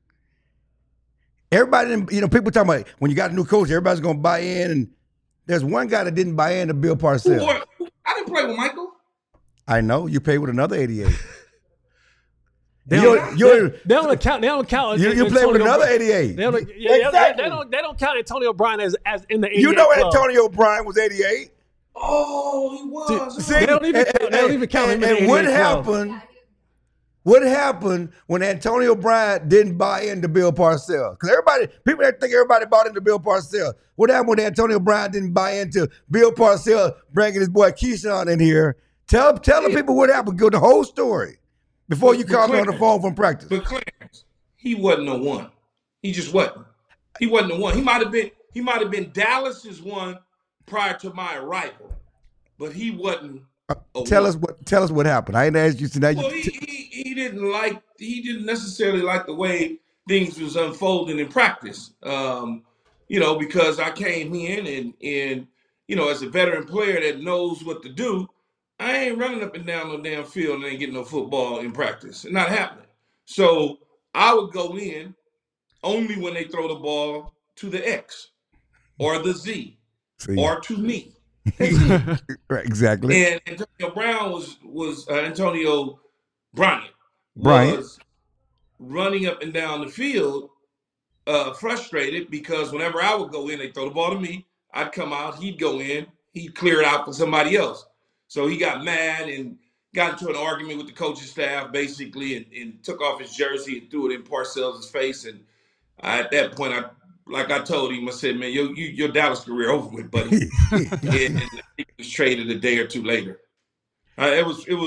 Speaker 2: Everybody didn't, people talking about when you got a new coach, everybody's going to buy in. And there's one guy that didn't buy in to Bill Parcells.
Speaker 5: I didn't play with Michael.
Speaker 2: I know. You played with another 88.
Speaker 1: They don't count.
Speaker 2: You played with another 88.
Speaker 1: They don't count Antonio Brown as in the 88.
Speaker 2: You know Antonio Brown was 88.
Speaker 5: Oh, he was.
Speaker 2: See, they don't even count him. And what happened? What happened when Antonio Brown didn't buy into Bill Parcells? Because people that think everybody bought into Bill Parcells. What happened when Antonio Brown didn't buy into Bill Parcells bringing his boy Keyshawn in here? Tell the people what happened. Go the whole story before you call me on the phone from practice.
Speaker 5: But Clarence, he wasn't the one. He just wasn't. He wasn't the one. He might have been Dallas's one prior to my arrival, but he wasn't.
Speaker 2: Tell us what happened. I didn't ask you today.
Speaker 5: Well, he didn't necessarily like the way things was unfolding in practice. Because I came in and as a veteran player that knows what to do, I ain't running up and down no damn field and ain't getting no football in practice. It's not happening. So I would go in only when they throw the ball to the X or the Z or to me.
Speaker 2: Right, exactly.
Speaker 5: And Antonio Brown was Antonio Bryant was running up and down the field, frustrated because whenever I would go in, they throw the ball to me. I'd come out, he'd go in, he'd clear it out for somebody else. So he got mad and got into an argument with the coaching staff, basically, and took off his jersey and threw it in Parcells' face. And at that point, I told him, I said, man, your Dallas career over with, buddy. And he was traded a day or two later. I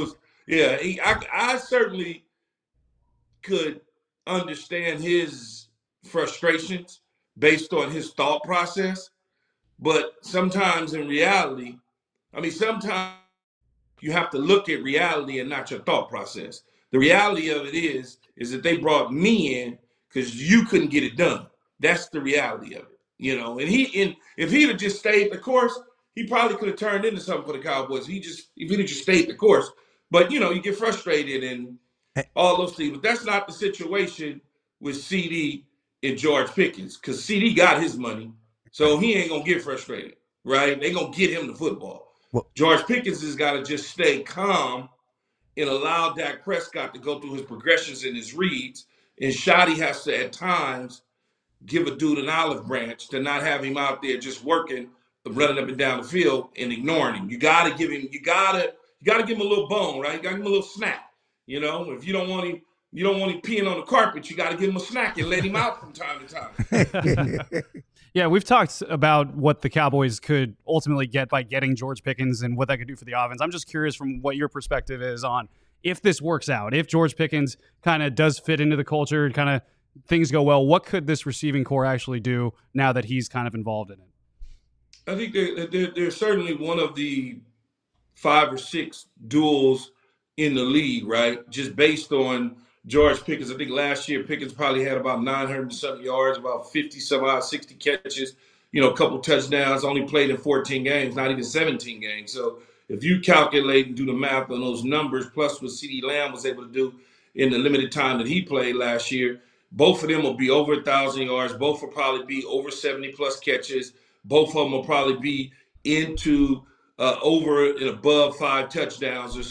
Speaker 5: certainly could understand his frustrations based on his thought process. But sometimes in reality, sometimes you have to look at reality and not your thought process. The reality of it is that they brought me in because you couldn't get it done. That's the reality of it, And if he'd have just stayed the course, he probably could have turned into something for the Cowboys. If he'd have just stayed the course, but you get frustrated and all those things. But that's not the situation with CD and George Pickens because CD got his money, so he ain't gonna get frustrated, right? They gonna get him the football. George Pickens has got to just stay calm and allow Dak Prescott to go through his progressions and his reads. And Shotty has to, at times, give a dude an olive branch to not have him out there just working, running up and down the field and ignoring him. You got to give him a little bone, right? You got to give him a little snack. If you don't want him peeing on the carpet, you got to give him a snack and let him out from time to time.
Speaker 3: Yeah, we've talked about what the Cowboys could ultimately get by getting George Pickens and what that could do for the offense. I'm just curious from what your perspective is on if this works out, if George Pickens kind of does fit into the culture and kind of things go well, what could this receiving core actually do now that he's kind of involved in it?
Speaker 5: I think they're certainly one of the 5 or 6 duels in the league, right? Just based on George Pickens. I think last year Pickens probably had about 900-something yards, about 50-some-odd, 60 catches, a couple touchdowns, only played in 14 games, not even 17 games. So if you calculate and do the math on those numbers, plus what CeeDee Lamb was able to do in the limited time that he played last year, both of them will be over 1,000 yards. Both will probably be over 70-plus catches. Both of them will probably be into over and above 5 touchdowns or so.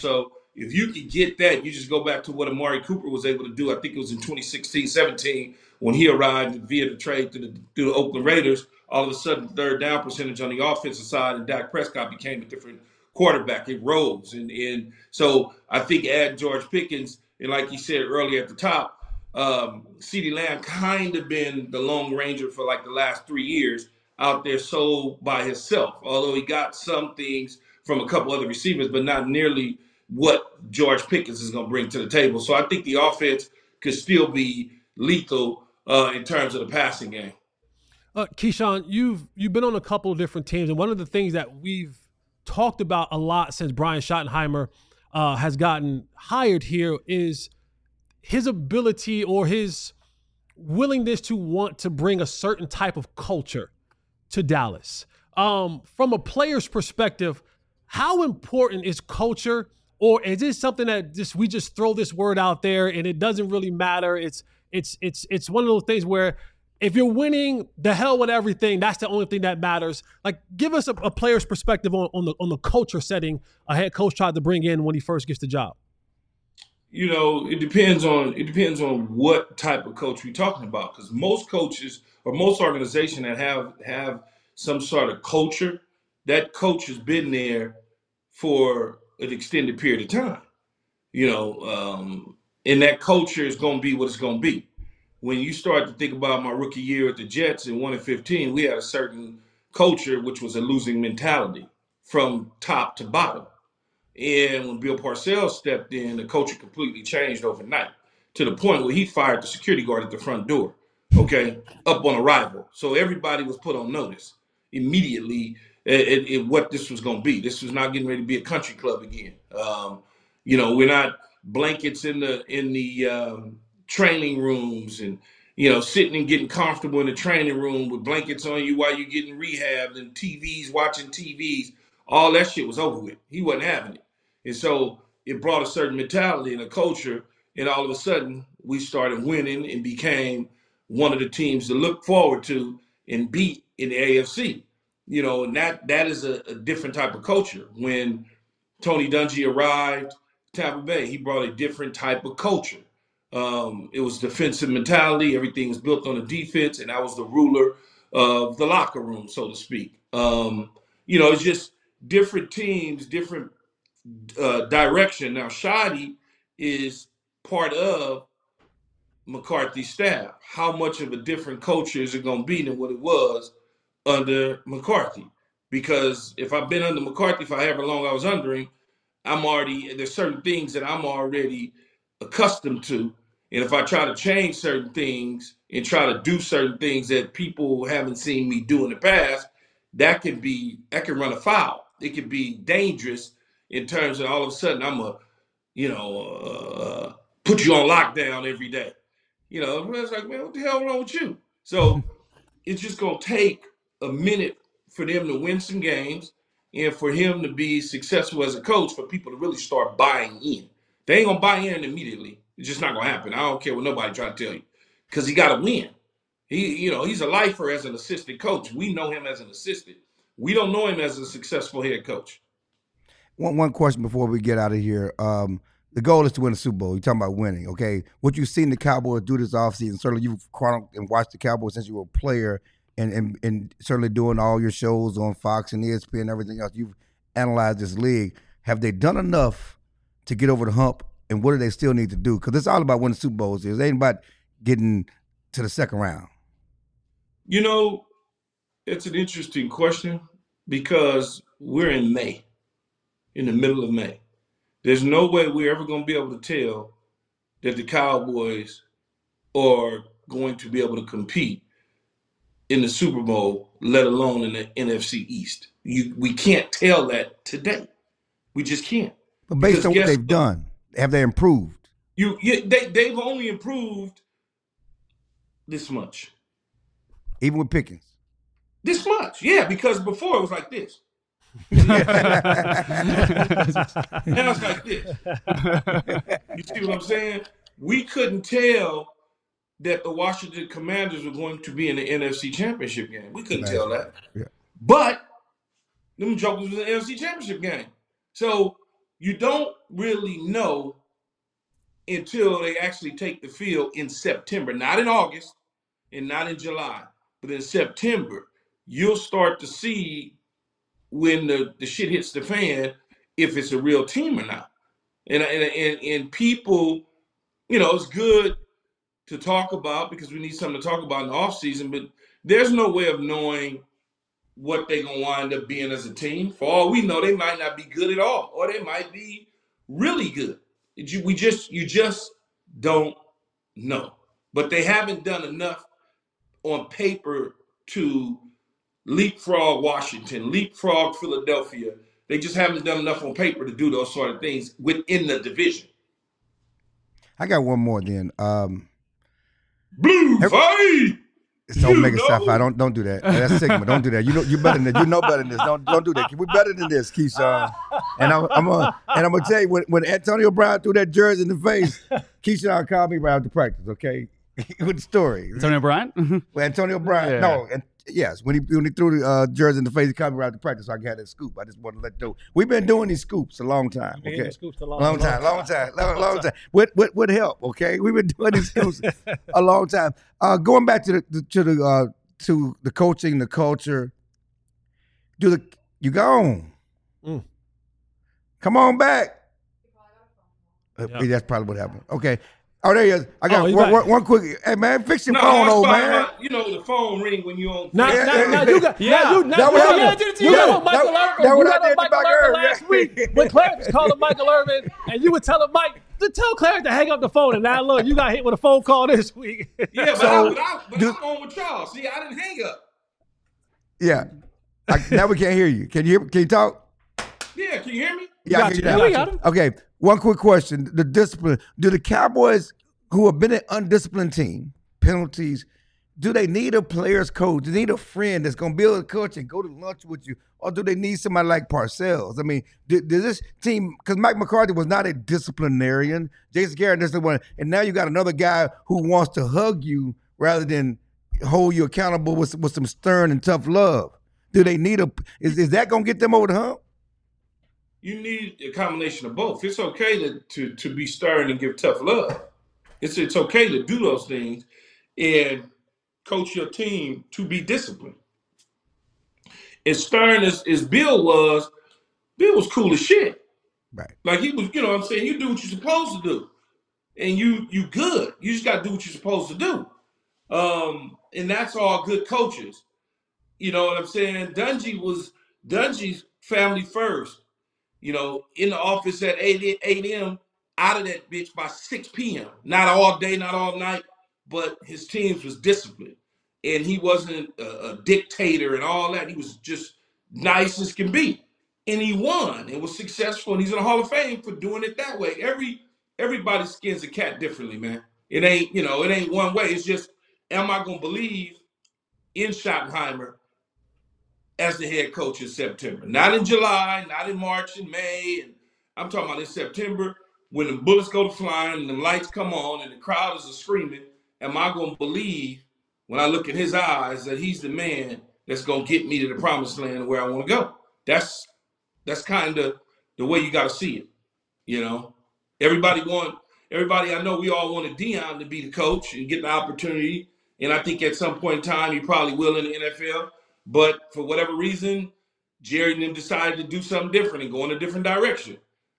Speaker 5: if you could get that, you just go back to what Amari Cooper was able to do. I think it was in 2016-17 when he arrived via the trade through the Oakland Raiders. All of a sudden, the third down percentage on the offensive side, and Dak Prescott became a different quarterback. It rose. And so I think add George Pickens, and like you said earlier at the top, CeeDee Lamb kind of been the lone ranger for like the last 3 years out there so by himself, although he got some things from a couple other receivers, but not nearly what George Pickens is going to bring to the table. So I think the offense could still be lethal in terms of the passing game.
Speaker 1: Keyshawn, you've been on a couple of different teams, and one of the things that we've talked about a lot since Brian Schottenheimer has gotten hired here is his ability or his willingness to want to bring a certain type of culture to Dallas. From a player's perspective, how important is culture, or is it something that we just throw this word out there and it doesn't really matter? It's one of those things where if you're winning, the hell with everything, that's the only thing that matters. Like, give us a player's perspective on the culture setting a head coach tried to bring in when he first gets the job.
Speaker 5: It depends on what type of coach we're talking about, because most coaches or most organizations that have some sort of culture, that coach has been there for an extended period of time. And that culture is going to be what it's going to be. When you start to think about my rookie year at the Jets in 1-15, we had a certain culture, which was a losing mentality from top to bottom. And when Bill Parcells stepped in, the culture completely changed overnight to the point where he fired the security guard at the front door, up on arrival. So everybody was put on notice immediately at what this was going to be. This was not getting ready to be a country club again. We're not blankets in the training rooms and, sitting and getting comfortable in the training room with blankets on you while you're getting rehabbed and TVs, watching TVs. All that shit was over with. He wasn't having it. And so it brought a certain mentality and a culture, and all of a sudden we started winning and became one of the teams to look forward to and beat in the AFC. And that is a different type of culture. When Tony Dungy arrived Tampa Bay, he brought a different type of culture. It was defensive mentality. Everything was built on the defense, and that was the ruler of the locker room, so to speak. It's just different teams, different direction. Now, Shotty is part of McCarthy's staff. How much of a different culture is it going to be than what it was under McCarthy? Because if I've been under McCarthy for however long I was under him, there's certain things that I'm already accustomed to. And if I try to change certain things and try to do certain things that people haven't seen me do in the past, that can run afoul. It can be dangerous in terms of all of a sudden I'm put you on lockdown every day. It's like, man, what the hell wrong with you? So it's just going to take a minute for them to win some games and for him to be successful as a coach, for people to really start buying in. They ain't going to buy in immediately. It's just not going to happen. I don't care what nobody trying to tell you, because he got to win. He's a lifer as an assistant coach. We know him as an assistant. We don't know him as a successful head coach.
Speaker 2: One question before we get out of here. The goal is to win the Super Bowl. You're talking about winning, okay? What you've seen the Cowboys do this offseason, certainly you've chronicled and watched the Cowboys since you were a player, and certainly doing all your shows on Fox and ESPN and everything else. You've analyzed this league. Have they done enough to get over the hump, and what do they still need to do? Because it's all about winning Super Bowls. It ain't about getting to the second round.
Speaker 5: It's an interesting question, because we're in May, in the middle of May. There's no way we're ever going to be able to tell that the Cowboys are going to be able to compete in the Super Bowl, let alone in the NFC East. We can't tell that today. We just can't.
Speaker 2: But based on what they've done, have they improved?
Speaker 5: They've only improved this much.
Speaker 2: Even with Pickens?
Speaker 5: This much, yeah, because before it was like this. Now it's like this. You see what I'm saying? We couldn't tell that the Washington Commanders were going to be in the NFC Championship game. We couldn't tell that.
Speaker 2: Yeah.
Speaker 5: But them jokers was in the NFC Championship game. So you don't really know until they actually take the field in September, not in August and not in July, but in September. You'll start to see when the shit hits the fan if it's a real team or not. And people, it's good to talk about because we need something to talk about in the offseason, but there's no way of knowing what they're going to wind up being as a team. For all we know, they might not be good at all, or they might be really good. You just don't know. But they haven't done enough on paper to leapfrog Washington, leapfrog Philadelphia. They just haven't done enough on paper to do those sort of things within the division.
Speaker 2: I got one more then.
Speaker 5: Blue fight.
Speaker 2: Don't make it sci-fi. Don't do that. That's Sigma. Don't do that. You better than this. You know better than this. Don't do that. We're better than this, Keyshawn. And I'm gonna tell you when Antonio Brown threw that jersey in the face, Keyshawn called me right after practice. Okay, with the story.
Speaker 3: Antonio Brown.
Speaker 2: Well, Antonio Brown.
Speaker 3: Yeah.
Speaker 2: No. Yes, when he threw the jersey in the face, he called me right after practice, so I got that scoop. I just want to let you know. We've been doing these scoops a long time. Okay, long time. With help. Okay, we've been doing these scoops a long time. Going back to the coaching, the culture. You gone? Come on back. That's probably what happened. Okay. Oh, there he is. I got one quick. Hey, man, fix your phone, old man.
Speaker 5: The phone ring when you on.
Speaker 1: You got Michael Irvin last week when Clarence was calling Michael Irvin, and you were telling Mike to tell Clarence to hang up the phone. And now look, you got hit with a phone call this week.
Speaker 5: Yeah, but I'm on with y'all. See, I didn't hang up.
Speaker 2: Yeah. Now we can't hear you. Can you talk?
Speaker 5: Yeah, can you hear me?
Speaker 2: Yeah, I got him. Okay, one quick question. The discipline. Do the Cowboys, who have been an undisciplined team, penalties, do they need a player's coach? Do they need a friend that's going to be able to coach and go to lunch with you? Or do they need somebody like Parcells? I mean, does this team, because Mike McCarthy was not a disciplinarian, Jason Garrett is the one, and now you got another guy who wants to hug you rather than hold you accountable with some stern and tough love. Do they need is that going to get them over the hump?
Speaker 5: You need a combination of both. It's okay to be stern and give tough love. It's okay to do those things and coach your team to be disciplined. As stern as Bill was cool as shit.
Speaker 2: Right.
Speaker 5: Like he was, you know what I'm saying? You do what you're supposed to do. And you good. You just got to do what you're supposed to do. And that's all good coaches. You know what I'm saying? Dungy's family first. In the office at 8 a.m., out of that bitch by 6 p.m. Not all day, not all night, but his teams was disciplined. And he wasn't a dictator and all that. He was just nice as can be. And he won and was successful. And he's in the Hall of Fame for doing it that way. Everybody skins a cat differently, man. It ain't one way. It's just, am I going to believe in Schottenheimer as the head coach in September? Not in July, not in March and May. And I'm talking about in September when the bullets go to flying and the lights come on and the crowd is screaming. Am I going to believe when I look at his eyes that he's the man that's going to get me to the promised land where I want to go? That's kind of the way you got to see it. Everybody I know, we all wanted Deion to be the coach and get the opportunity. And I think at some point in time, he probably will in the NFL. But for whatever reason, Jerry and them decided to do something different and go in a different direction.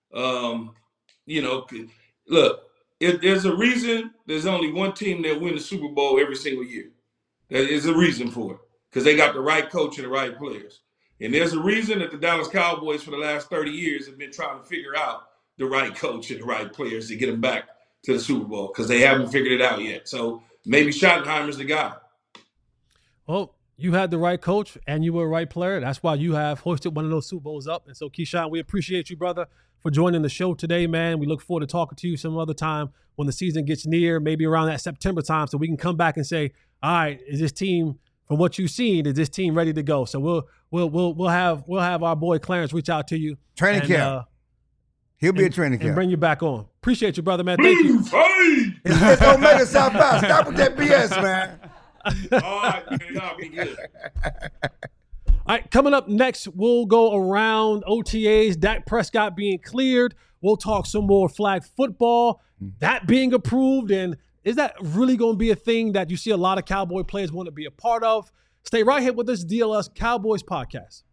Speaker 5: Look, if there's a reason, there's only one team that win the Super Bowl every single year. There is a reason for it, because they got the right coach and the right players. And there's a reason that the Dallas Cowboys for the last 30 years have been trying to figure out the right coach and the right players to get them back to the Super Bowl, because they haven't figured it out yet. So maybe Schottenheimer's the guy.
Speaker 1: Well, you had the right coach and you were a right player. That's why you have hoisted one of those Super Bowls up. And so, Keyshawn, we appreciate you, brother, for joining the show today, man. We look forward to talking to you some other time when the season gets near, maybe around that September time, so we can come back and say, all right, is this team, from what you've seen, is this team ready to go? So we'll have our boy Clarence reach out to you.
Speaker 2: Training camp. He'll be at training camp.
Speaker 1: And bring you back on. Appreciate you, brother, man. Thank you.
Speaker 2: It's Omega South By. Stop with that BS, man.
Speaker 5: All right, man. Y'all be good.
Speaker 1: All right, coming up next, we'll go around OTAs, Dak Prescott being cleared. We'll talk some more flag football, that being approved, and is that really going to be a thing that you see a lot of Cowboy players want to be a part of? Stay right here with this DLS Cowboys podcast.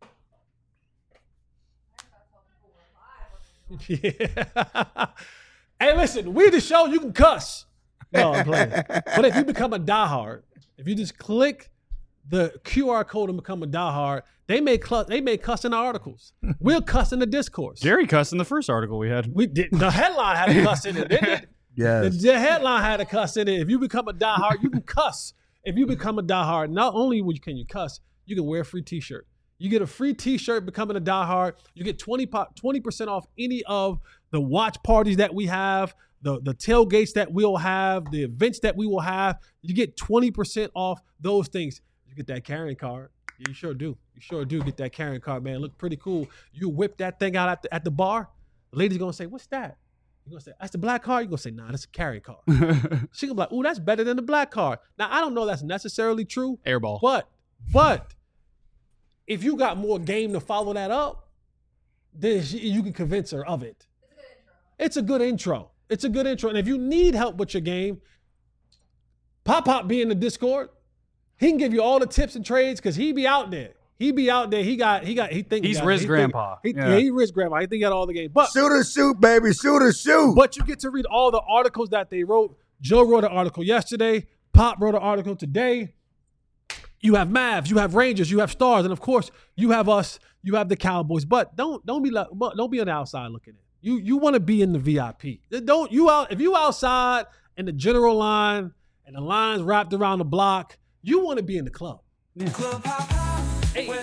Speaker 1: Yeah. Hey, listen, we the show, you can cuss. No, I'm playing. But if you become a diehard, if you just click the QR code and become a diehard, they may cuss in the articles. We'll cuss in the discourse.
Speaker 3: Jerry cussed in the first article we had.
Speaker 1: We did. The headline had a cuss in it, didn't it?
Speaker 2: Yes.
Speaker 1: The headline had a cuss in it. If you become a diehard, you can cuss. If you become a diehard, not only can you cuss, you can wear a free T-shirt. You get a free T-shirt becoming a diehard. You get 20% off any of the watch parties that we have, the tailgates that we'll have, the events that we will have. You get 20% off those things. You get that carrying card. You sure do. You sure do get that carrying card, man. Look pretty cool. You whip that thing out at the bar. The lady's going to say, what's that? You're going to say, that's the black card? You're going to say, nah, that's a carrying card. She's going to be like, ooh, that's better than the black card. Now, I don't know that's necessarily true.
Speaker 3: Airball.
Speaker 1: But if you got more game to follow that up, then you can convince her of it. It's a good intro. It's a good intro. And if you need help with your game, Pop be in the Discord. He can give you all the tips and trades because he be out there. He be out there. He's
Speaker 3: Riz Grandpa.
Speaker 1: He's Riz Grandpa. He think he got all the game. But
Speaker 2: shoot or shoot, baby. Shoot or shoot.
Speaker 1: But you get to read all the articles that they wrote. Joe wrote an article yesterday. Pop wrote an article today. You have Mavs, you have Rangers, you have Stars, and of course you have us. You have the Cowboys. But don't be on the outside looking in. You want to be in the VIP. If you outside in the general line and the lines wrapped around the block, you want to be in the club. Yeah. Hey. You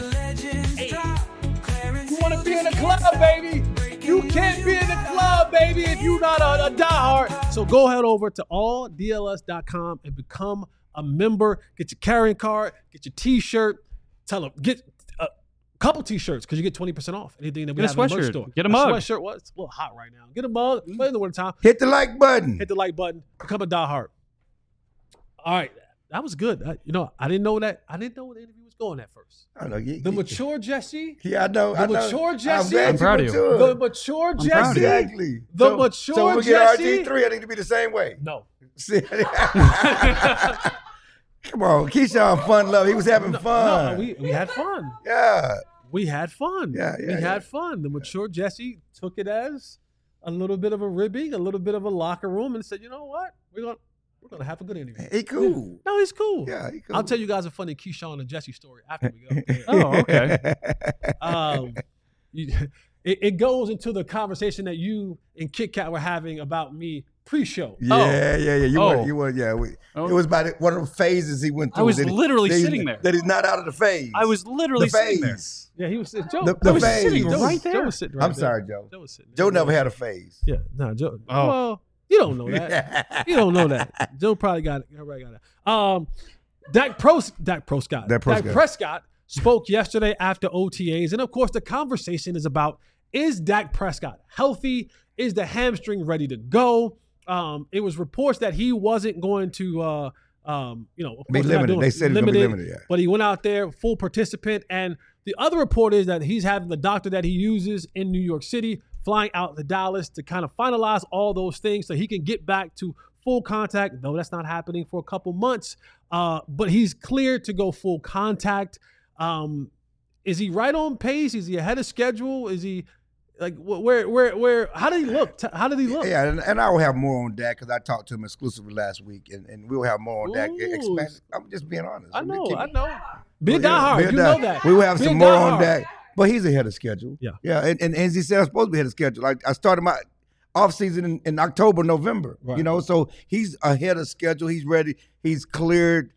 Speaker 1: want to be in the club, baby. You can't be in the club, baby, if you're not a diehard. So go head over to alldls.com and become a member. Get your carrying card, get your T-shirt. Tell them, get a couple T-shirts because you get 20% off anything that we have in the merch store.
Speaker 3: Get a mug.
Speaker 1: Sweatshirt. Well, it's a little hot right now. Get a mug. But in the wintertime.
Speaker 2: Hit the like button.
Speaker 1: Hit the like button. Become a diehard. All right. That was good. I didn't know that. I didn't know where the interview was going at first.
Speaker 2: I know.
Speaker 1: The mature Jesse.
Speaker 2: Yeah, I know.
Speaker 1: The mature Jesse.
Speaker 3: I'm proud of you.
Speaker 1: The mature Jesse.
Speaker 2: Exactly.
Speaker 1: The mature
Speaker 2: so when we
Speaker 1: Jesse.
Speaker 2: get RG3, I need to be the same way.
Speaker 1: No.
Speaker 2: Come on, Keyshawn, fun love. He was having fun.
Speaker 1: No, we had fun.
Speaker 2: Yeah.
Speaker 1: We had fun. We had fun. The mature Jesse took it as a little bit of a ribbing, a little bit of a locker room, and said, you know what? We're gonna have a good interview.
Speaker 2: He cool.
Speaker 1: No, he's cool.
Speaker 2: Yeah, he cool.
Speaker 1: I'll tell you guys a funny Keyshawn and Jesse story after we go.
Speaker 3: Oh, okay.
Speaker 1: It goes into the conversation that you and Kit Kat were having about me pre-show.
Speaker 2: Yeah. You were. It was about one of the phases he went through.
Speaker 3: I was literally sitting there.
Speaker 2: That he's not out of the phase.
Speaker 3: I was literally sitting there.
Speaker 1: Yeah, he was sitting. Joe,
Speaker 2: The
Speaker 1: was
Speaker 2: phase.
Speaker 1: sitting
Speaker 3: right there.
Speaker 1: Joe was sitting right
Speaker 2: I'm
Speaker 1: there.
Speaker 2: sorry, Joe.
Speaker 1: Joe was sitting there.
Speaker 2: Joe never had a phase.
Speaker 1: Yeah, no, Joe.
Speaker 3: Oh.
Speaker 1: Well, you don't know that. You don't know that. Joe probably got it. Everybody got it. Dak Prescott spoke yesterday after OTAs, and of course, the conversation is about: is Dak Prescott healthy? Is the hamstring ready to go? It was reports that he wasn't going to, of course,
Speaker 2: be limited. They said he was going to be limited, yeah.
Speaker 1: But he went out there, full participant. And the other report is that he's having the doctor that he uses in New York City flying out to Dallas to kind of finalize all those things so he can get back to full contact, though that's not happening for a couple months. But he's cleared to go full contact. Is he right on pace? Is he ahead of schedule? Is he like where? How did he look? How did he look?
Speaker 2: Yeah, and I will have more on Dak because I talked to him exclusively last week, and we'll have more on Dak. I'm just being honest.
Speaker 1: I know. Be a diehard. You know that.
Speaker 2: We will have some more on Dak, but he's ahead of schedule.
Speaker 1: Yeah.
Speaker 2: And as he said, I'm supposed to be ahead of schedule. I started my off season in October, November.
Speaker 1: Right.
Speaker 2: So he's ahead of schedule. He's ready. He's cleared.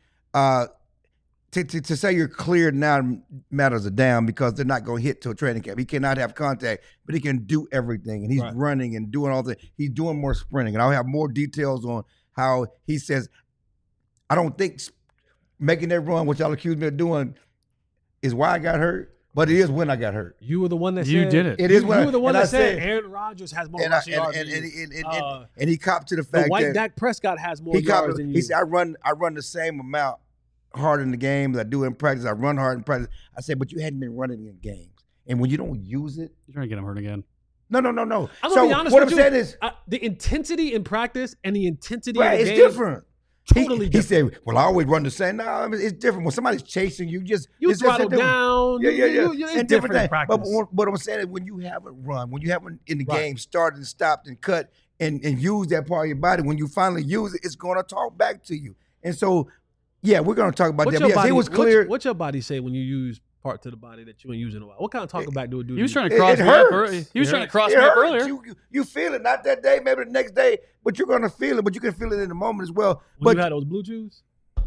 Speaker 2: To say you're cleared now matters a damn because they're not going to hit to a training camp. He cannot have contact, but he can do everything. And he's running and doing all the – he's doing more sprinting. And I'll have more details on how he says, I don't think making that run, which y'all accuse me of doing, is why I got hurt, but it is when I got hurt.
Speaker 1: You were the one that
Speaker 3: you
Speaker 1: said –
Speaker 3: did it.
Speaker 2: It is when
Speaker 1: you were the one that said
Speaker 2: said
Speaker 1: Aaron Rodgers has more rushing yards than you.
Speaker 2: And he copped to the fact
Speaker 1: the white
Speaker 2: that
Speaker 1: Dak Prescott has more yards than you.
Speaker 2: He said, I run the same amount hard in the games. I do in practice. I run hard in practice. I said, but you hadn't been running in games. And when you don't use it.
Speaker 3: You're trying to get him hurt again.
Speaker 2: No.
Speaker 1: I'm gonna
Speaker 2: so
Speaker 1: be honest
Speaker 2: what
Speaker 1: with
Speaker 2: I'm
Speaker 1: you.
Speaker 2: saying is.
Speaker 1: The intensity in practice and the intensity in the
Speaker 2: It's
Speaker 1: game.
Speaker 2: different.
Speaker 1: Totally
Speaker 2: He
Speaker 1: different.
Speaker 2: said, well, I always run the same. No, I mean, it's different. When somebody's chasing you,
Speaker 1: You
Speaker 2: it's
Speaker 1: throttle
Speaker 2: just
Speaker 1: down.
Speaker 2: Yeah.
Speaker 1: It's
Speaker 2: And
Speaker 1: different in
Speaker 2: things.
Speaker 1: practice.
Speaker 2: But what I'm saying is when you haven't run, when you haven't in the
Speaker 1: Right.
Speaker 2: game started and stopped and cut and use that part of your body, when you finally use it, it's going to talk back to you. And so, yeah, we're going to talk about
Speaker 1: What's
Speaker 2: that.
Speaker 1: your
Speaker 2: Yes, it was
Speaker 1: body-
Speaker 2: clear.
Speaker 1: What's your body say when you use part to the body that you ain't using in a while? What kind of talking back do it do?
Speaker 3: He was
Speaker 1: to
Speaker 3: trying
Speaker 1: you?
Speaker 3: to cross
Speaker 2: It
Speaker 3: me up.
Speaker 2: hurts.
Speaker 3: He was
Speaker 1: It
Speaker 3: trying to
Speaker 1: hurts.
Speaker 3: cross
Speaker 2: It
Speaker 3: me up
Speaker 2: hurts.
Speaker 3: earlier.
Speaker 2: You feel it, not that day, maybe the next day, but you're going to feel it, but you can feel it in the moment as well.
Speaker 1: When
Speaker 2: But
Speaker 1: you had those blue chews?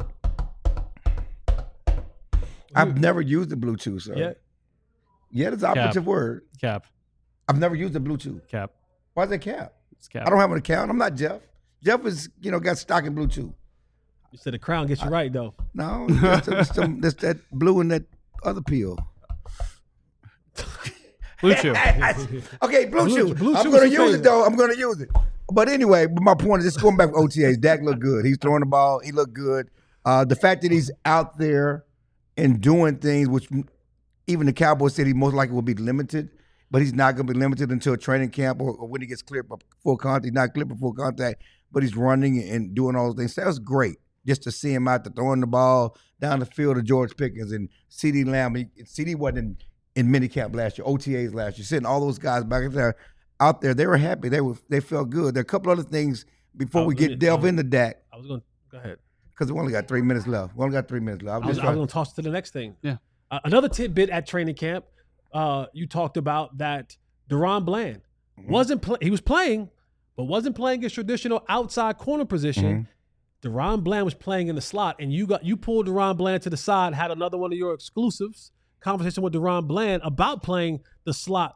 Speaker 2: I've never used the Bluetooth, sir.
Speaker 1: Yeah.
Speaker 2: Yeah, that's the operative word.
Speaker 3: Cap.
Speaker 2: I've never used the Bluetooth.
Speaker 3: Cap.
Speaker 2: Why is that cap?
Speaker 3: It's cap.
Speaker 2: I don't have an account. I'm not Jeff. Jeff is, got stock in Bluetooth.
Speaker 1: You said the crown gets you right though.
Speaker 2: No, that's that blue and that other pill.
Speaker 3: Blue Chew.
Speaker 2: Okay, Bluetooth.
Speaker 1: Blue
Speaker 2: I'm
Speaker 1: Chew
Speaker 2: going
Speaker 1: is
Speaker 2: to
Speaker 1: your
Speaker 2: use it,
Speaker 1: favorite.
Speaker 2: though. I'm going to use it. But anyway, my point is just going back to OTAs. Dak looked good. He's throwing the ball. He looked good. The fact that he's out there and doing things, which even the Cowboys said he most likely will be limited, but he's not going to be limited until training camp or when he gets cleared for full contact. He's not cleared for full contact, but he's running and doing all those things. That was great just to see him out there throwing the ball down the field to George Pickens and CeeDee Lamb. CeeDee wasn't in minicamp last year, OTAs last year. Sitting all those guys back there, out there, they were happy. They felt good. There are a couple other things before we delve into Dak.
Speaker 1: I was going to go ahead.
Speaker 2: Because we only got 3 minutes left. We only got 3 minutes left.
Speaker 1: I was going to toss to the next thing.
Speaker 3: Yeah.
Speaker 1: Another tidbit at training camp. You talked about that Deron Bland he was playing, but wasn't playing his traditional outside corner position. Deron Bland was playing in the slot, and you pulled Deron Bland to the side, had another one of your exclusives conversation with Deron Bland about playing the slot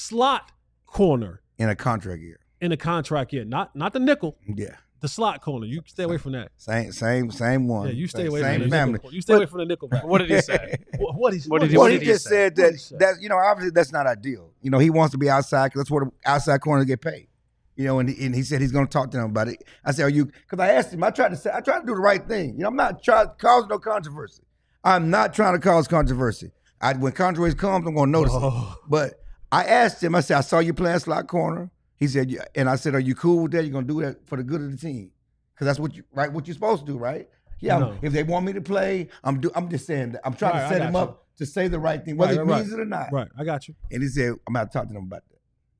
Speaker 1: corner
Speaker 2: in a contract year.
Speaker 1: in a contract year, not the nickel,
Speaker 2: Yeah.
Speaker 1: the slot corner. You stay away from that.
Speaker 2: Same one.
Speaker 1: Yeah, you stay away
Speaker 2: same
Speaker 1: from the
Speaker 2: family.
Speaker 1: nickel. You stay away from the nickel.
Speaker 3: What did he say?
Speaker 1: What
Speaker 2: He just said
Speaker 1: What he said?
Speaker 2: that obviously that's not ideal. He wants to be outside because that's where the outside corners get paid. And he said he's going to talk to them about it. I said, because I asked him, I tried to do the right thing. I'm not trying to cause no controversy. I'm not trying to cause controversy. When controversy comes, I'm going to notice it. But I asked him, I said, I saw you playing slot corner. He said, yeah. And I said, are you cool with that? You're going to do that for the good of the team? Because that's what you're supposed to do, right? Yeah,
Speaker 1: No.
Speaker 2: if they want me to play, I'm just saying that. I'm trying
Speaker 1: Right,
Speaker 2: to
Speaker 1: I
Speaker 2: set
Speaker 1: got
Speaker 2: him
Speaker 1: you.
Speaker 2: up to say the right thing, whether
Speaker 1: Right,
Speaker 2: he
Speaker 1: right,
Speaker 2: means it or not.
Speaker 1: Right, I got you.
Speaker 2: And he said, I'm going to talk to them about that.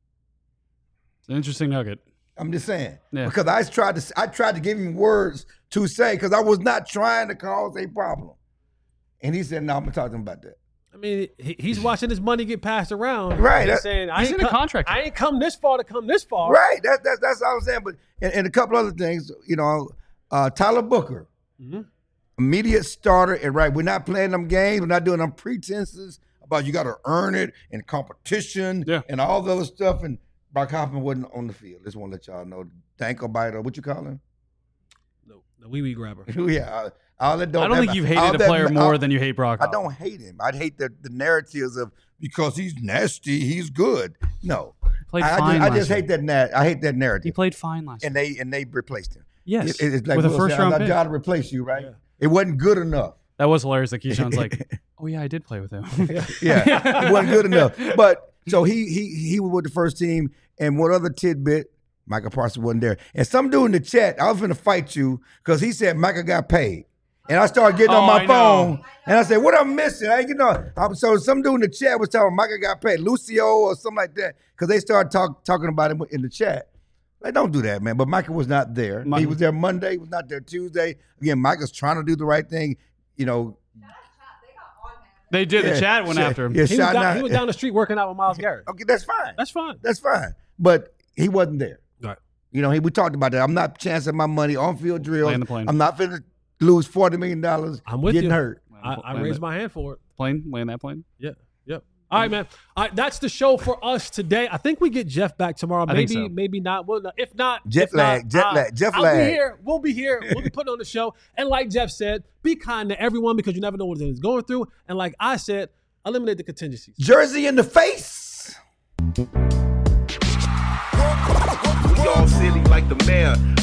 Speaker 3: It's an interesting nugget.
Speaker 2: I'm just saying.
Speaker 3: Yeah.
Speaker 2: Because I tried to give him words to say because I was not trying to cause a problem. And he said, no, I'm going to talk to him about that.
Speaker 1: I mean, he's watching his money get passed around.
Speaker 2: Right.
Speaker 1: He's saying,
Speaker 3: He's in a contract.
Speaker 1: I ain't come this far to come this far.
Speaker 2: Right. That's all I'm saying. But and a couple other things, Tyler Booker, immediate starter. And we're not playing them games. We're not doing them pretenses about you got to earn it and competition and all the other stuff. And Brock Hoffman wasn't on the field. Just want to let y'all know. Danko Biter, what you call him?
Speaker 1: The wee grabber.
Speaker 2: Yeah. I
Speaker 3: I don't think you've hated a player more than you hate Brock
Speaker 2: I
Speaker 3: Hoffman.
Speaker 2: don't hate him. I'd hate the narratives of because he's nasty, he's good. No.
Speaker 3: Played
Speaker 2: I
Speaker 3: fine
Speaker 2: just
Speaker 3: last
Speaker 2: hate that I hate that narrative.
Speaker 3: He played fine last year.
Speaker 2: And they replaced him.
Speaker 3: Yes.
Speaker 2: It's like
Speaker 3: with a
Speaker 2: Will
Speaker 3: first
Speaker 2: said,
Speaker 3: round
Speaker 2: I'm
Speaker 3: pick.
Speaker 2: trying to replace you, right? Yeah. It wasn't good enough.
Speaker 3: That was hilarious that Keyshawn's like, oh yeah, I did play with him.
Speaker 2: Yeah. It wasn't good enough. But so he was with the first team. And what other tidbit? Michael Parsons wasn't there. And some dude in the chat, I was going to fight you because he said Michael got paid. And I started getting on my phone, and I said, what I'm missing? So some dude in the chat was telling Michael got paid, Lucio or something like that, because they started talking about him in the chat. Like, don't do that, man. But Michael was not there. He was there Monday. He was not there Tuesday. Again, Michael's trying to do the right thing.
Speaker 3: They did. The chat went after him.
Speaker 2: Yeah,
Speaker 1: He was down the street working out with Myles Garrett.
Speaker 2: Okay, that's fine.
Speaker 1: That's fine.
Speaker 2: But he wasn't there.
Speaker 1: Right.
Speaker 2: We talked about that. I'm not chancing my money on field drills.
Speaker 3: Land the plane.
Speaker 2: I'm not finna lose $40 million.
Speaker 1: I'm with
Speaker 2: getting
Speaker 1: you.
Speaker 2: hurt.
Speaker 1: I raised my hand for it.
Speaker 3: Land that plane.
Speaker 1: Yeah. Yep. All right, man. All right, that's the show for us today. I think we get Jeff back tomorrow.
Speaker 3: I think so.
Speaker 1: Maybe not. Well, if not,
Speaker 2: Jet lag.
Speaker 1: I'll be here. We'll be here. We'll be putting on the show. And like Jeff said, be kind to everyone because you never know what they're going through. And like I said, eliminate the contingencies.
Speaker 2: Jersey in the face.
Speaker 7: Y'all city like the mayor.